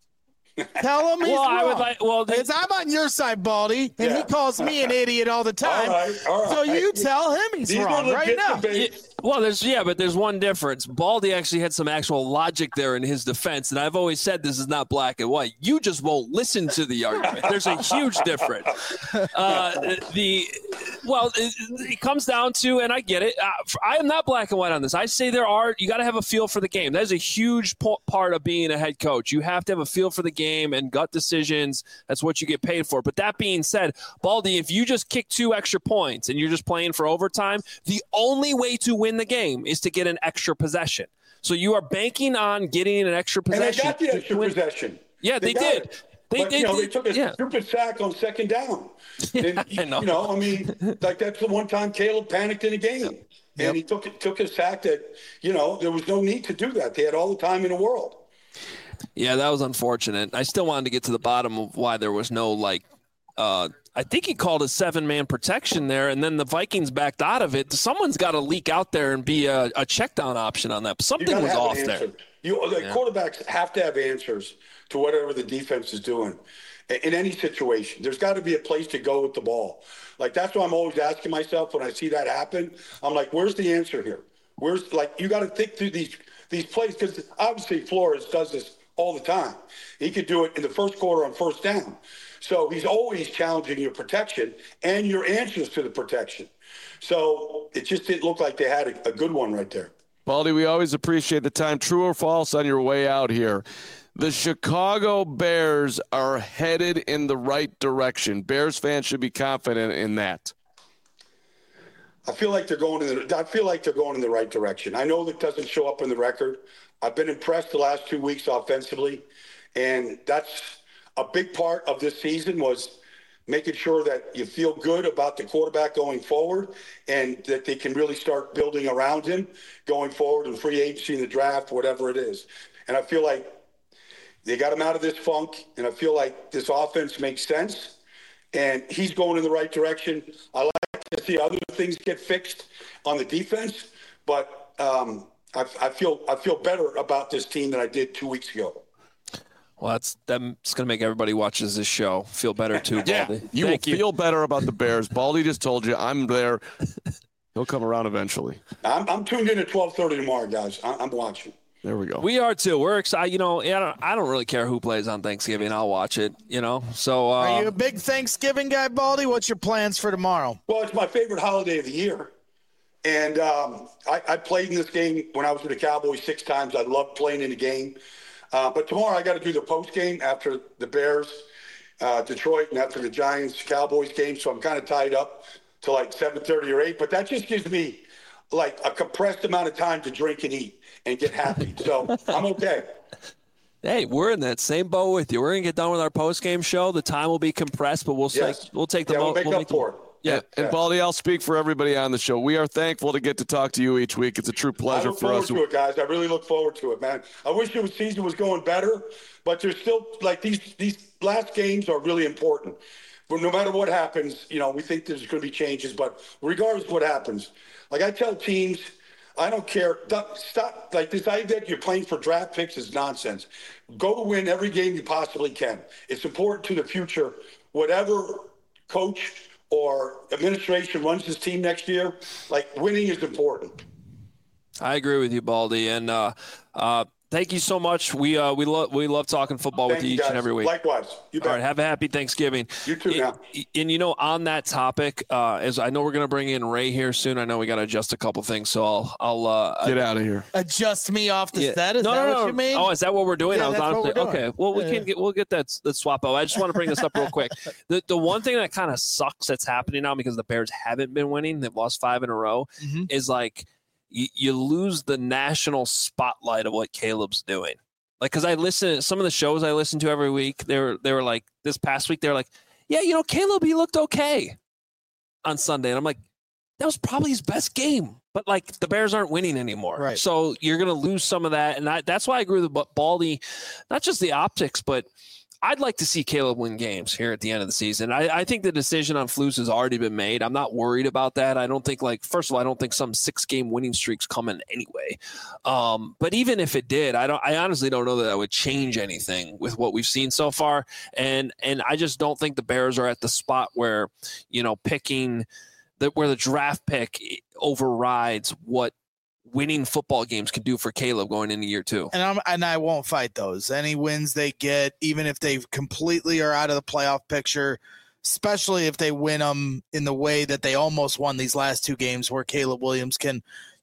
Tell him he's wrong. Because I'm on your side, Baldy, and he calls me an idiot all the time. All right. So you tell him he's wrong right now. But there's one difference. Baldy actually had some actual logic there in his defense, and I've always said this is not black and white. You just won't listen to the argument. There's a huge difference. It comes down to, and I get it, I am not black and white on this. I say you got to have a feel for the game. That is a huge part of being a head coach. You have to have a feel for the game and gut decisions. That's what you get paid for. But that being said, Baldy, if you just kick 2 extra points and you're just playing for overtime, the only way to win the game is to get an extra possession. So you are banking on getting an extra possession. And they got the extra possession. Yeah, they did. They took a stupid sack on second down. And, I know. I mean, like that's the one time Caleb panicked in a game. And he took a sack that, there was no need to do that. They had all the time in the world. Yeah, that was unfortunate. I still wanted to get to the bottom of why there was no I think he called a 7-man protection there, and then the Vikings backed out of it. Someone's got to leak out there and be a check down option on that. Something was off there. Quarterbacks have to have answers to whatever the defense is doing in any situation. There's got to be a place to go with the ball. Like, that's what I'm always asking myself when I see that happen. I'm like, where's the answer here? You got to think through these plays, because obviously Flores does this all the time. He could do it in the first quarter on first down. So he's always challenging your protection and your answers to the protection. So it just didn't look like they had a good one right there. Baldy, we always appreciate the time. True or false on your way out here? The Chicago Bears are headed in the right direction. Bears fans should be confident in that. I feel like they're going in the right direction. I know that doesn't show up in the record. I've been impressed the last 2 weeks offensively, and that's a big part of this season, was making sure that you feel good about the quarterback going forward and that they can really start building around him going forward in free agency, in the draft, whatever it is. And I feel like they got him out of this funk, and I feel like this offense makes sense, and he's going in the right direction. I like to see other things get fixed on the defense, but I feel better about this team than I did 2 weeks ago. Well, that's going to make everybody watches this show feel better too, Baldy. Yeah, you will feel better about the Bears. Baldy just told you I'm there. He'll come around eventually. I'm tuned in at 12:30 tomorrow, guys. I'm watching. There we go. We are too. We're excited. I don't really care who plays on Thanksgiving. I'll watch it. So are you a big Thanksgiving guy, Baldy? What's your plans for tomorrow? Well, it's my favorite holiday of the year. And I played in this game when I was with the Cowboys 6 times. I love playing in the game. But tomorrow I got to do the post game after the Bears, Detroit, and after the Giants-Cowboys game. So I'm kind of tied up to like 7:30 or 8. But that just gives me like a compressed amount of time to drink and eat and get happy. So I'm okay. Hey, we're in that same boat with you. We're going to get done with our post game show. The time will be compressed, but we'll take the we'll make up for it. Yeah, and Baldy, I'll speak for everybody on the show. We are thankful to get to talk to you each week. It's a true pleasure for us. I look forward to it, guys. I really look forward to it, man. I wish the season was going better, but there's still like these last games are really important. But no matter what happens, we think there's going to be changes. But regardless of what happens, like I tell teams, I don't care. Stop. Like this idea that you're playing for draft picks is nonsense. Go to win every game you possibly can. It's important to the future. Whatever coach or administration runs this team next year, like winning is important. I agree with you, Baldy. And thank you so much. We love talking football with you each and every week. Likewise. You bet. All right. Have a happy Thanksgiving. You too now. And on that topic, as I know we're going to bring in Ray here soon. I know we got to adjust a couple things, so I'll get out of here. Adjust me off the set. Is that what you mean? Oh, is that what we're doing? Yeah, that's what we're doing. Okay. Well, we'll get that swap out. I just want to bring this up real quick. The one thing that kind of sucks that's happening now because the Bears haven't been winning, they've lost 5 in a row, is like you lose the national spotlight of what Caleb's doing. Like, because I listen to some of the shows I listen to every week. They were like, this past week, they were like, yeah, Caleb, he looked okay on Sunday. And I'm like, that was probably his best game. But, like, the Bears aren't winning anymore. Right. So you're going to lose some of that. And that's why I agree with Baldy, not just the optics, but I'd like to see Caleb win games here at the end of the season. I think the decision on Flus has already been made. I'm not worried about that. I don't think first of all, I don't think some 6-game winning streak's coming anyway. But even if it did, I honestly don't know that that would change anything with what we've seen so far. And I just don't think the Bears are at the spot where, picking where the draft pick overrides what winning football games can do for Caleb going into year 2. And I won't fight those. Any wins they get, even if they completely are out of the playoff picture, especially if they win them in the way that they almost won these last 2 games where Caleb Williams can,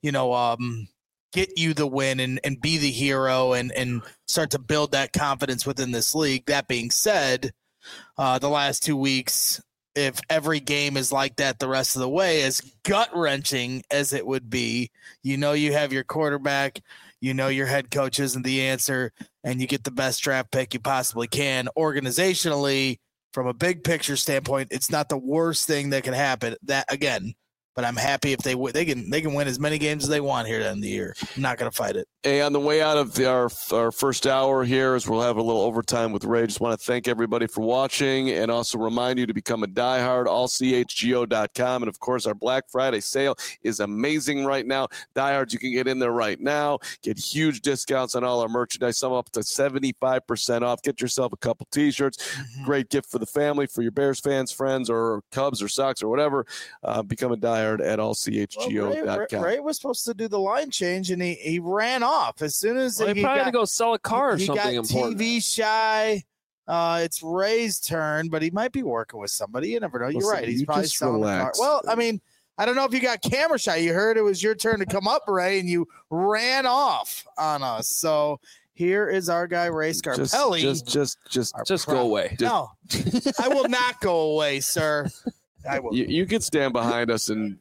get you the win and be the hero and start to build that confidence within this league. That being said, the last 2 weeks, if every game is like that the rest of the way, as gut-wrenching as it would be, you have your quarterback, your head coach isn't the answer, and you get the best draft pick you possibly can. Organizationally, from a big picture standpoint, it's not the worst thing that can happen. That, again, But I'm happy if they can win as many games as they want here at the end of the year. I'm not going to fight it. Hey, on the way out of our first hour here, as we'll have a little overtime with Ray, just want to thank everybody for watching and also remind you to become a diehard, allchgo.com. And, of course, our Black Friday sale is amazing right now. Diehards, you can get in there right now, get huge discounts on all our merchandise, some up to 75% off. Get yourself a couple T-shirts. Mm-hmm. Great gift for the family, for your Bears fans, friends, or Cubs or Sox or whatever. Become a diehard at allchgo.com. Ray was supposed to do the line change, and he ran off as soon as he probably had to go sell a car or something important. TV shy. It's Ray's turn, but he might be working with somebody. You never know. You're right. He's probably selling a car. Well, I mean, I don't know if you got camera shy. You heard it was your turn to come up, Ray, and you ran off on us. So here is our guy, Ray Scarpelli. Just go away. No, I will not go away, sir. I will. You can stand behind us and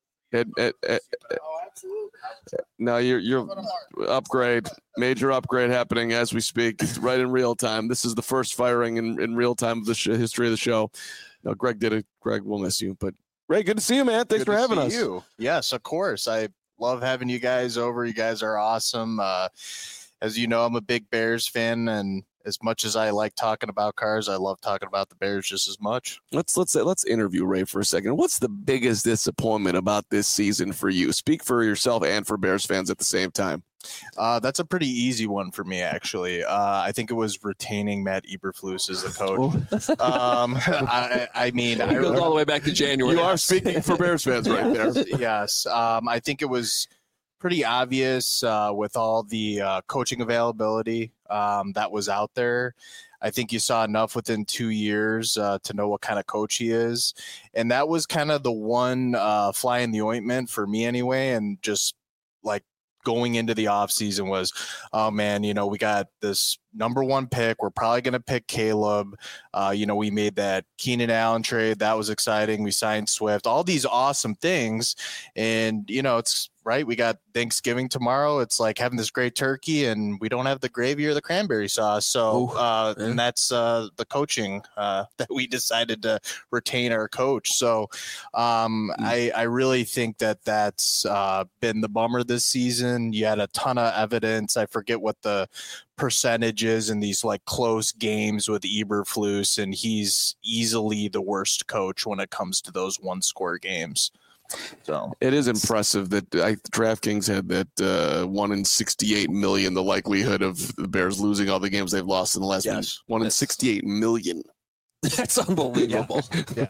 now you're upgrade, major upgrade happening as we speak. It's right in real time. This is the first firing in real time of the history of the show. No, Greg did it. Greg, we'll miss you, but Ray, good to see you, man. Thanks for having us. Yes, of course. I love having you guys over. You guys are awesome. As you know, I'm a big Bears fan, and as much as I like talking about cars, I love talking about the Bears just as much. Let's interview Ray for a second. What's the biggest disappointment about this season for you? Speak for yourself and for Bears fans at the same time. That's a pretty easy one for me, actually. I think it was retaining Matt Eberflus as the coach. I mean, it goes all the way back to January. You are speaking for Bears fans right there. Yes. I think it was pretty obvious with all the coaching availability that was out there. I think you saw enough within 2 years to know what kind of coach he is. And that was kind of the one fly in the ointment for me anyway. And just like going into the offseason was, oh, man, we got this number one pick. We're probably going to pick Caleb. We made that Keenan Allen trade. That was exciting. We signed Swift. All these awesome things. And, it's right. We got Thanksgiving tomorrow. It's like having this great turkey, and we don't have the gravy or the cranberry sauce. So, and that's the coaching that we decided to retain our coach. So, I really think that's been the bummer this season. You had a ton of evidence. I forget what the percentages in these like close games with Eberflus, and he's easily the worst coach when it comes to those one-score games. So it is impressive that DraftKings had that 1 in 68 million, the likelihood of the Bears losing all the games they've lost in the last week. 1 in 68 million. That's unbelievable. Yeah.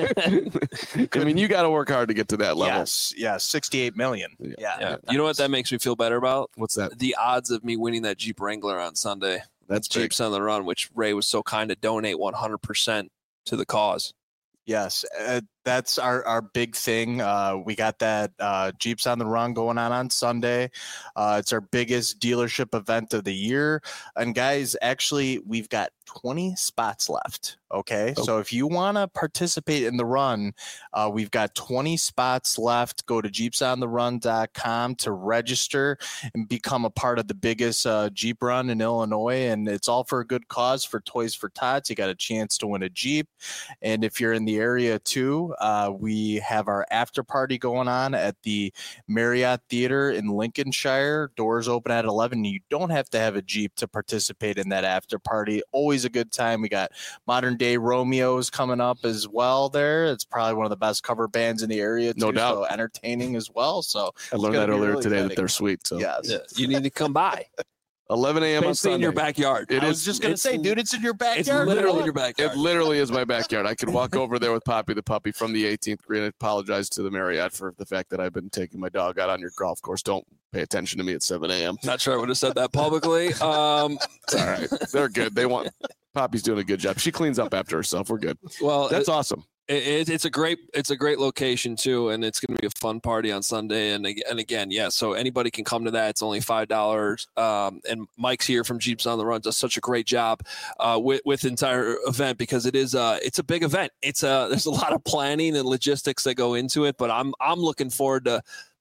I mean, you got to work hard to get to that level. Yes, 68 million. Yeah. You know what that makes me feel better about? What's that? The odds of me winning that Jeep Wrangler on Sunday. That's Jeeps on the Run, which Ray was so kind to donate 100% to the cause. Yes, that's our big thing. We got that Jeeps on the Run going on Sunday. It's our biggest dealership event of the year. And guys, actually, we've got 20 spots left. Okay. So if you want to participate in the run, we've got 20 spots left. Go to jeepsontherun.com to register and become a part of the biggest Jeep run in Illinois. And it's all for a good cause, for Toys for Tots. You got a chance to win a Jeep. And if you're in the area too, we have our after party going on at the Marriott Theater in Lincolnshire. Doors open at 11. You don't have to have a Jeep to participate in that after party. Always a good time. We got Modern Day Romeo's coming up as well there. It's probably one of the best cover bands in the area too, no doubt. So entertaining as well. So I learned that earlier today that they're sweet. So yes. You need to come by. 11 a.m. on Sunday. In your backyard. I was just going to say, dude, it's in your backyard. It's literally in your backyard. It literally is my backyard. I could walk over there with Poppy the puppy from the 18th green. I apologize to the Marriott for the fact that I've been taking my dog out on your golf course. Don't pay attention to me at 7 a.m. Not sure I would have said that publicly. It's all right. They're good. Poppy's doing a good job. She cleans up after herself. We're good. Well, that's awesome. It's a great location too, and it's going to be a fun party on Sunday. And again, yeah. So anybody can come to that. It's only $5. And Mike's here from Jeeps on the Run does such a great job with the entire event, because it's a big event. There's a lot of planning and logistics that go into it. But I'm looking forward to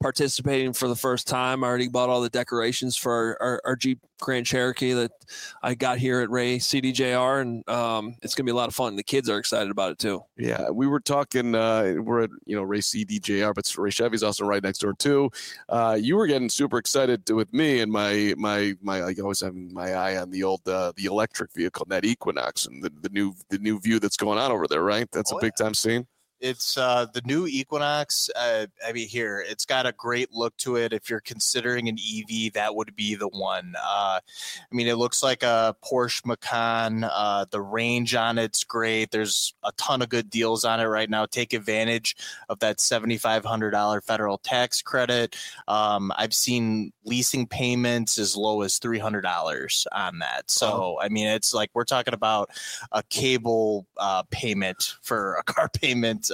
participating for the first time. I already bought all the decorations for our Jeep Grand Cherokee that I got here at Ray CDJR, and it's going to be a lot of fun. The kids are excited about it too. Yeah, we were talking, we're at, Ray CDJR, but Ray Chevy's also right next door too. You were getting super excited with me and my I always have my eye on the old, the electric vehicle, that Equinox, and the new view that's going on over there, right? That's a big time scene. It's the new Equinox. Here, it's got a great look to it. If you're considering an EV, that would be the one. It looks like a Porsche Macan. The range on it's great. There's a ton of good deals on it right now. Take advantage of that $7,500 federal tax credit. I've seen leasing payments as low as $300 on that. So, it's like we're talking about a cable payment for a car payment.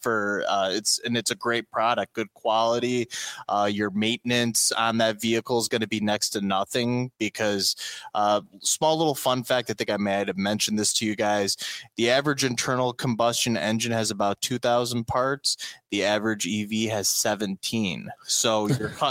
It's a great product, good quality. Your maintenance on that vehicle is going to be next to nothing because small little fun fact, I think I might have mentioned this to you guys. The average internal combustion engine has about 2,000 parts. The average EV has 17. So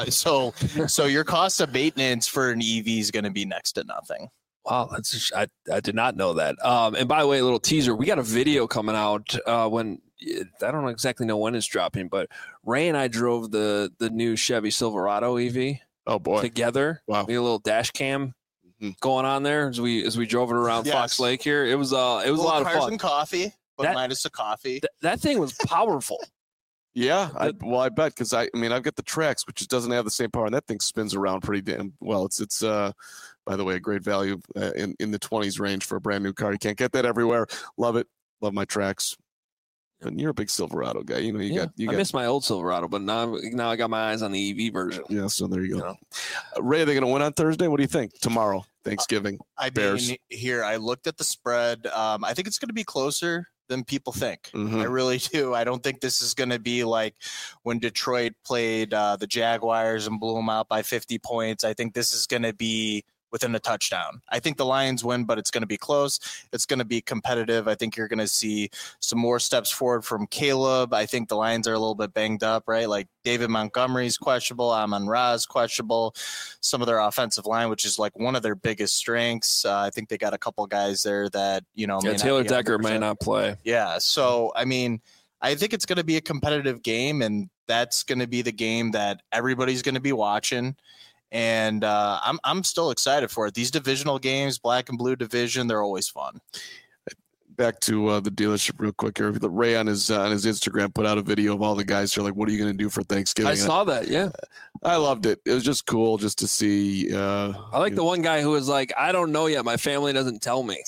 your cost of maintenance for an EV is going to be next to nothing. Wow, I did not know that. And by the way, a little teaser: we got a video coming out when. I don't exactly know when it's dropping, but Ray and I drove the new Chevy Silverado EV. Oh boy, together. Wow, we had a little dash cam going on there as we drove it around Fox Lake here. It was a lot of fun. And coffee, but minus the coffee. That thing was powerful. Yeah, I bet, because I've got the Trax, which doesn't have the same power, and that thing spins around pretty damn well. It's by the way, a great value in the 20s range for a brand new car. You can't get that everywhere. Love it. Love my Trax. And you're a big Silverado guy. I miss my old Silverado, but now I got my eyes on the EV version. Yeah, so there you go. Ray, are they going to win on Thursday? What do you think? Tomorrow, Thanksgiving, Bears. Here, I looked at the spread. I think it's going to be closer than people think. Mm-hmm. I really do. I don't think this is going to be like when Detroit played the Jaguars and blew them out by 50 points. I think this is going to be within a touchdown. I think the Lions win, but it's going to be close. It's going to be competitive. I think you're going to see some more steps forward from Caleb. I think the Lions are a little bit banged up, right? Like David Montgomery's questionable, Amon-Ra's questionable. Some of their offensive line, which is like one of their biggest strengths. I think they got a couple guys there that, Taylor Decker may not play. Yeah. So, I think it's going to be a competitive game, and that's going to be the game that everybody's going to be watching. And I'm still excited for it. These divisional games, black and blue division, they're always fun. Back to the dealership real quick here. Ray on his Instagram put out a video of all the guys who are like, what are you going to do for Thanksgiving? I saw that, yeah. I loved it. It was just cool just to see. I like the one guy who was like, I don't know yet. My family doesn't tell me.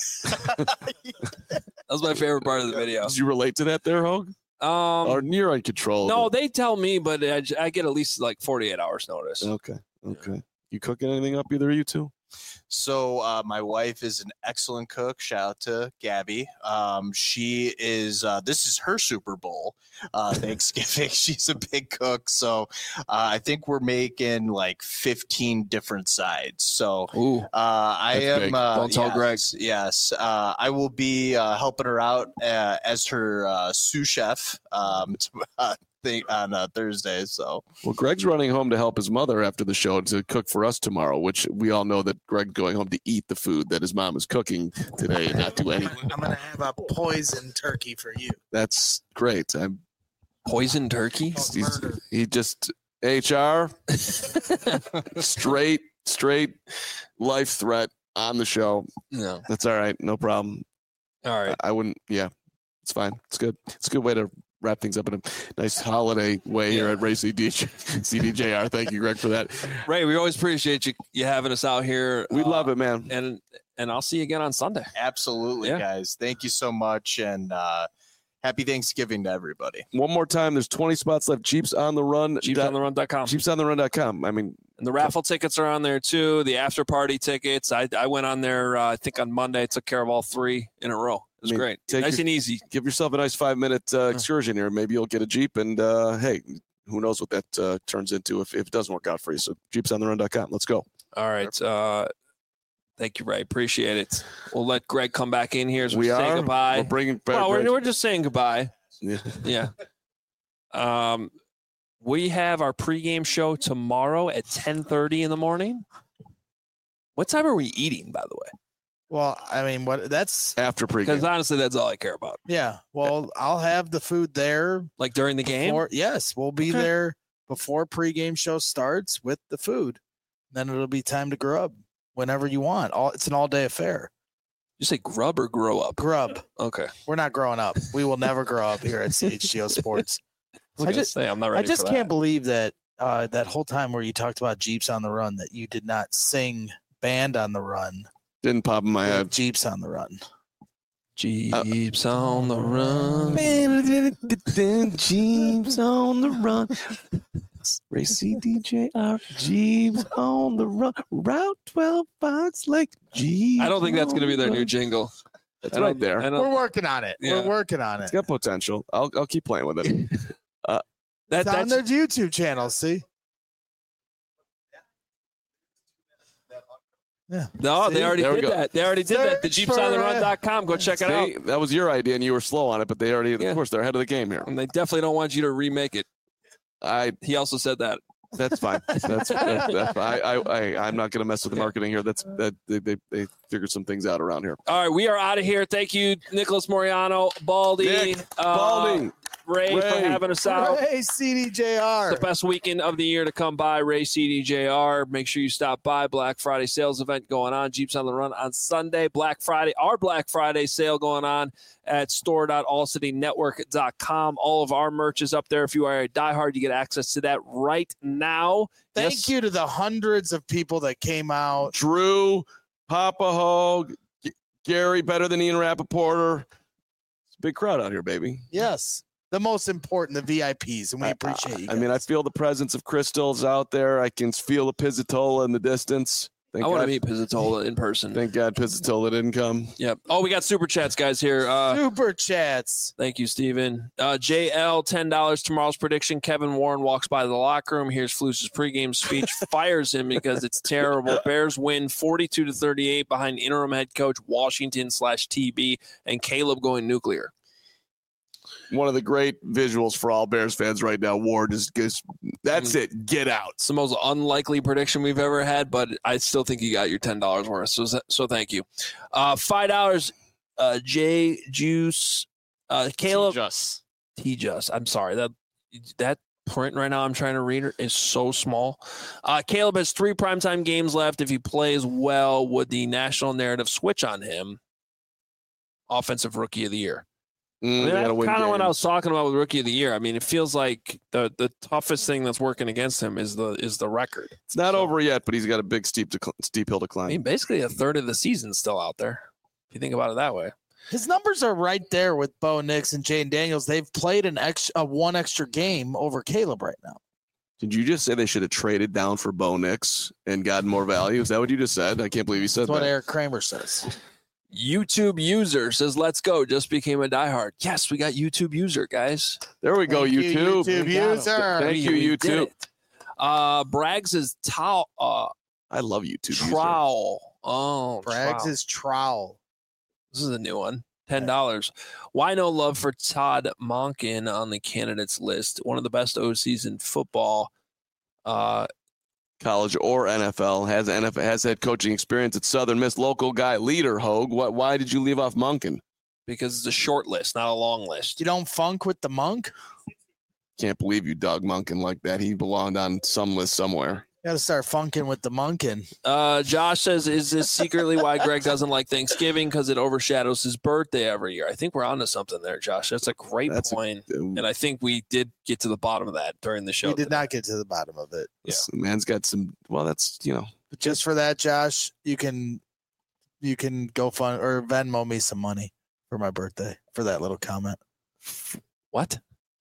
That was my favorite part of the video. Did you relate to that there, Hogue? Or you're in control? No, they tell me, but I get at least like 48 hours notice. Okay. You cooking anything up, either of you two? So my wife is an excellent cook. Shout out to Gabby. She is, this is her Super Bowl Thanksgiving. She's a big cook. So I think we're making like 15 different sides. So I am, don't tell Greg. Yes. I will be helping her out as her sous chef on Thursday. So Greg's running home to help his mother after the show to cook for us tomorrow, which we all know that Greg's going home to eat the food that his mom is cooking today and not do anything. I'm gonna have a poison turkey for you. That's great. Poison turkey? He just HR straight life threat on the show. No, that's all right. No problem. All right. I wouldn't. Yeah, it's fine. It's good. It's a good way to wrap things up in a nice holiday way here at Ray CDJR. Thank you, Greg, for that. Ray, we always appreciate you having us out here. We love it, man. And I'll see you again on Sunday. Absolutely, guys. Thank you so much, and happy Thanksgiving to everybody. One more time, there's 20 spots left. Jeeps on the Run. JeepsOnTheRun.com. JeepsOnTheRun.com. And the raffle tickets are on there too. The after party tickets. I went on there. I think on Monday. Took care of all 3 in a row. It was great. Nice and easy. Give yourself a nice 5-minute excursion here. Maybe you'll get a Jeep, and hey, who knows what that turns into if it doesn't work out for you. So JeepsOnTheRun.com. Let's go. All right. Thank you, Ray. Appreciate it. We'll let Greg come back in here as we say goodbye. We're bringing back. Well, we're just saying goodbye. Yeah. Yeah. We have our pregame show tomorrow at 10:30 in the morning. What time are we eating, by the way? Well, I mean, that's after pregame. Because honestly, that's all I care about. Yeah. Well, I'll have the food there. Like during the game? Yes. We'll be there before pregame show starts with the food. Then it'll be time to grub whenever you want. It's an all-day affair. You say grub or grow up? Grub. Okay. We're not growing up. We will never grow up here at CHGO Sports. I'm not ready. I just can't believe that that whole time where you talked about Jeeps on the Run, that you did not sing Band on the Run. Didn't pop in my head. Jeeps on the Run. Jeeps on the run. Jeeps on the run. Racy DJR. Jeeps on the run. Route 12 Fox Lake. Jeeps. I don't think that's going to be their new jingle. It's right there. We're working on it. Yeah. We're working on it. It's got potential. I'll keep playing with it. That's on their YouTube channel. See. Yeah. No, they already did that. They already did that. The JeepsOnTheRun.com. Go check it out. That was your idea, and you were slow on it, but they already, of course, they're ahead of the game here. And they definitely don't want you to remake it. He also said that. That's fine. That's I'm not going to mess with the marketing here. They figured some things out around here. All right, we are out of here. Thank you, Nicholas Moriano, Baldy, Ray, for having us out. Ray CDJR. It's the best weekend of the year to come by. Ray CDJR. Make sure you stop by. Black Friday sales event going on. Jeeps on the Run on Sunday. Our Black Friday sale going on at store.allcitynetwork.com. All of our merch is up there. If you are a diehard, you get access to that right now. Thank you to the hundreds of people that came out. Drew, Papa Hogue, Gary, better than Ian Rapoport. It's a big crowd out here, baby. Yes. The most important, the VIPs, and we appreciate you guys. I mean, I feel the presence of crystals out there. I can feel the Pizzatola in the distance. I want to meet Pizzatola in person. Thank God Pizzatola didn't come. Yep. Oh, we got super chats, guys, here. Super chats. Thank you, Steven. JL, $10. Tomorrow's prediction. Kevin Warren walks by the locker room, hears Flus's pregame speech, fires him because it's terrible. Bears win 42-38 behind interim head coach Washington/TB, and Caleb going nuclear. One of the great visuals for all Bears fans right now, Ward, is that's it. Get out. It's the most unlikely prediction we've ever had, but I still think you got your $10 worth. So thank you. $5. J Juice. Caleb. T-Just. I'm sorry. That print right now I'm trying to read is so small. Caleb has 3 primetime games left. If he plays well, would the national narrative switch on him? Offensive Rookie of the Year. That's kind of what I was talking about with Rookie of the Year. I mean, it feels like the toughest thing that's working against him is the record. It's not over yet, but he's got a big steep hill to climb. I mean, basically a third of the season's still out there, if you think about it that way. His numbers are right there with Bo Nix and Jane Daniels. They've played one extra game over Caleb right now. Did you just say they should have traded down for Bo Nix and gotten more value? Is that what you just said? I can't believe you said that. That's what Eric Kramer says. YouTube user says, let's go. Just became a diehard. Yes, we got YouTube user, guys. There we go, YouTube. YouTube user. Thank you, YouTube. Braggs is towel. I love YouTube trowel. Oh, Braggs is trowel. This is a new one. $10. Why no love for Todd Monken on the candidates list? One of the best OCs in football. College or NFL, has head coaching experience at Southern Miss. Local guy, leader, Hogue. Why did you leave off Monken? Because it's a short list, not a long list. You don't funk with the monk? Can't believe you dug Monken like that. He belonged on some list somewhere. Got to start funking with the Monken. Josh says, is this secretly why Greg doesn't like Thanksgiving? Because it overshadows his birthday every year. I think we're onto something there, Josh. That's a great point. And I think we did get to the bottom of that during the show. We did not get to the bottom of it. Yeah. This man's got some, that's, But just for that, Josh, you can go fund or Venmo me some money for my birthday for that little comment. What?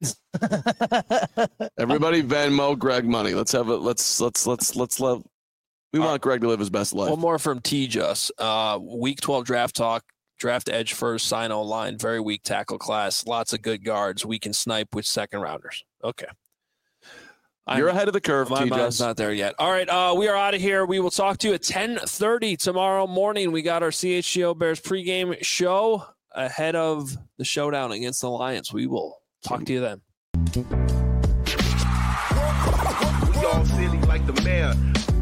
Everybody Venmo Greg money. Let's have it. Let's love. We want Greg to live his best life. One more from T-Just. Week 12 draft talk. Draft edge first, sign O-line. Very weak tackle class. Lots of good guards. We can snipe with second rounders. Okay. You're ahead of the curve, My mind's not there yet. All right, we are out of here. We will talk to you at 10:30 tomorrow morning. We got our CHGO Bears pregame show ahead of the showdown against the Lions. We will talk to you then. all silly like the mayor.